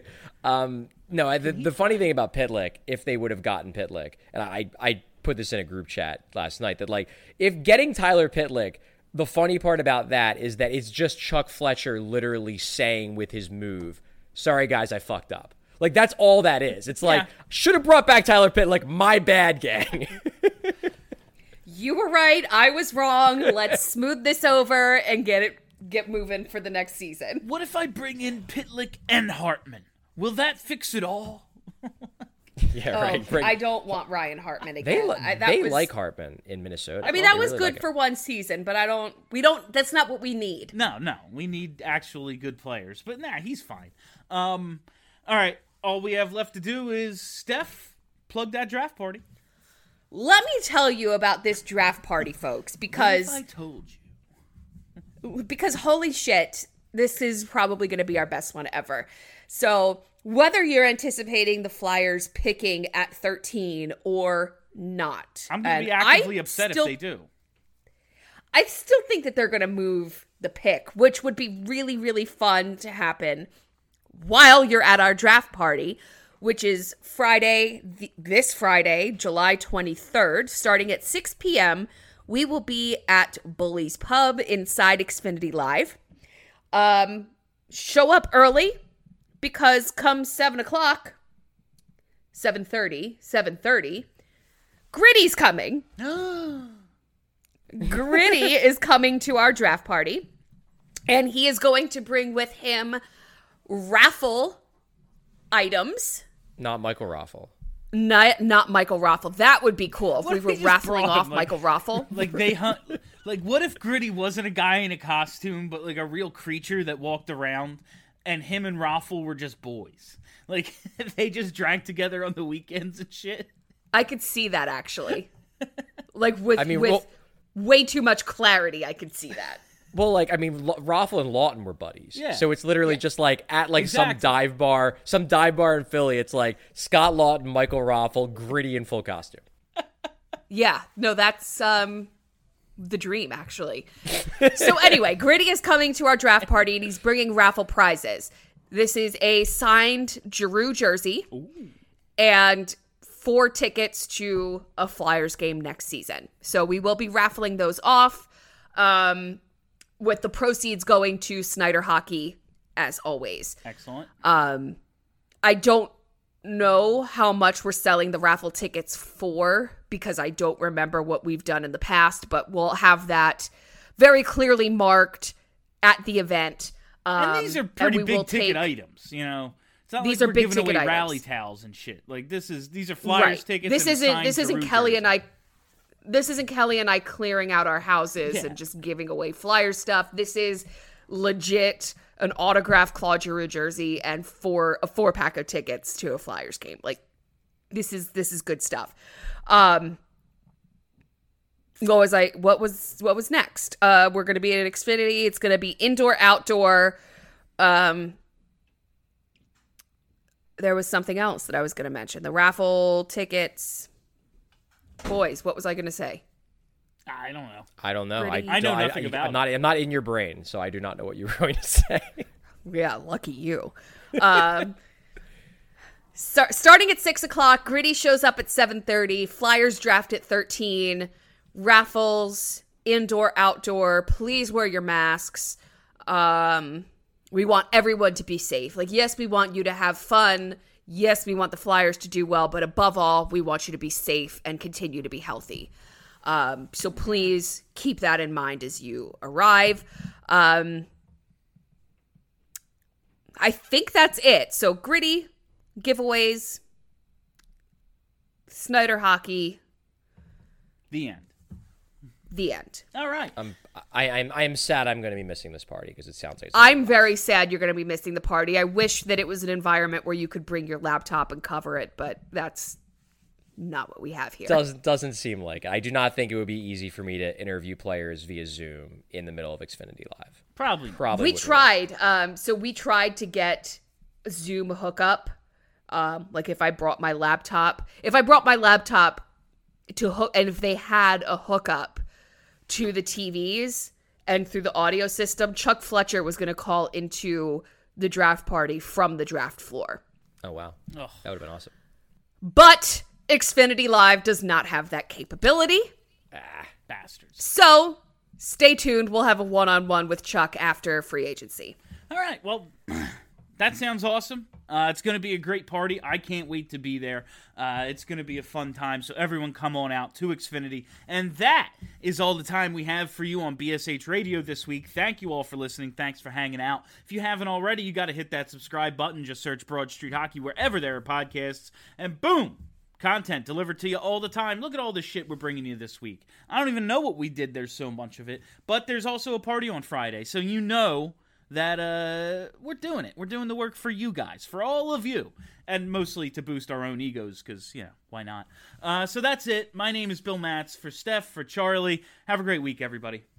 The funny thing about Pitlick, if they would have gotten Pitlick, and I put this in a group chat last night, that, like, if getting Tyler Pitlick, the funny part about that is that it's just Chuck Fletcher literally saying with his move, sorry guys, I fucked up. Like, that's all that is. It's like, should have brought back Tyler Pitlick, my bad, gang. You were right. I was wrong. Let's smooth this over and get moving for the next season. What if I bring in Pitlick and Hartman? Will that fix it all? Yeah, right. I don't want Ryan Hartman again. They like Hartman in Minnesota. I mean, that was really good for one season, but that's not what we need. No, we need actually good players. But he's fine. All right, all we have left to do is, Steph, plug that draft party. Let me tell you about this draft party, folks, because what if I told you? Because holy shit, this is probably going to be our best one ever. So whether you're anticipating the Flyers picking at 13 or not, I'm going to be actively upset if they do. I still think that they're going to move the pick, which would be really, really fun to happen while you're at our draft party, which is this Friday, July 23rd, starting at 6 p.m. We will be at Bully's Pub inside Xfinity Live. Show up early, because come 7 o'clock, 7:30, Gritty's coming. Gritty is coming to our draft party, and he is going to bring with him raffle items. Not Michael Raffle. Not Michael Raffle. That would be cool if we were raffling off Michael Raffle. Like, they hunt. Like, what if Gritty wasn't a guy in a costume, but like a real creature that walked around, and him and Raffle were just boys? Like, they just drank together on the weekends and shit. I could see that, actually. Like, with way too much clarity, I could see that. Well, like, I mean, Raffle and Lawton were buddies. Yeah. So it's literally just like at like Exactly. some dive bar in Philly. It's like Scott Lawton, Michael Raffle, Gritty in full costume. Yeah. No, that's the dream, actually. So anyway, Gritty is coming to our draft party, and he's bringing raffle prizes. This is a signed Giroux jersey. Ooh. And 4 tickets to a Flyers game next season. So we will be raffling those off. With the proceeds going to Snyder Hockey, as always. Excellent. I don't know how much we're selling the raffle tickets for, because I don't remember what we've done in the past, but we'll have that very clearly marked at the event. And these are pretty big ticket items, you know. It's not these like are we're big giving away ticket rally items. towels and shit. Like, these are Flyers tickets. This isn't Kelly Giroux and I. This isn't Kelly and I clearing out our houses and just giving away Flyer stuff. This is legit an autographed Claude Giroux jersey and a 4-pack of tickets to a Flyers game. Like, this is good stuff. What was next? We're going to be at Xfinity. It's going to be indoor, outdoor. There was something else that I was going to mention. The raffle tickets. Boys, what was I going to say? I don't know. I don't know. Pretty- I know nothing about it. I'm not in your brain, so I do not know what you were going to say. Yeah, lucky you. Starting at 6 o'clock, Gritty shows up at 7:30. Flyers draft at 13. Raffles, indoor, outdoor. Please wear your masks. We want everyone to be safe. Like, yes, we want you to have fun. Yes, we want the Flyers to do well, but above all, we want you to be safe and continue to be healthy. So please keep that in mind as you arrive. I think that's it. So Gritty, giveaways, Snyder hockey. The end. The end. All right. I am sad I'm going to be missing this party because it sounds like I'm very sad you're going to be missing the party. I wish that it was an environment where you could bring your laptop and cover it, but that's not what we have here. Doesn't seem like it. I do not think it would be easy for me to interview players via Zoom in the middle of Xfinity Live. Probably. We tried. So we tried to get a Zoom hookup. Like if I brought my laptop to hook, and if they had a hookup to the TVs and through the audio system, Chuck Fletcher was going to call into the draft party from the draft floor. Oh, wow. Ugh. That would have been awesome. But Xfinity Live does not have that capability. Bastards. So stay tuned. We'll have a one-on-one with Chuck after free agency. All right. Well, that sounds awesome. It's going to be a great party. I can't wait to be there. It's going to be a fun time. So everyone come on out to Xfinity. And that is all the time we have for you on BSH Radio this week. Thank you all for listening. Thanks for hanging out. If you haven't already, you got to hit that subscribe button. Just search Broad Street Hockey wherever there are podcasts. And boom! Content delivered to you all the time. Look at all the shit we're bringing you this week. I don't even know what we did. There's so much of it. But there's also a party on Friday. So you know that we're doing it. We're doing the work for you guys, for all of you, and mostly to boost our own egos because, why not? So that's it. My name is Bill Matz. For Steph, for Charlie, have a great week, everybody.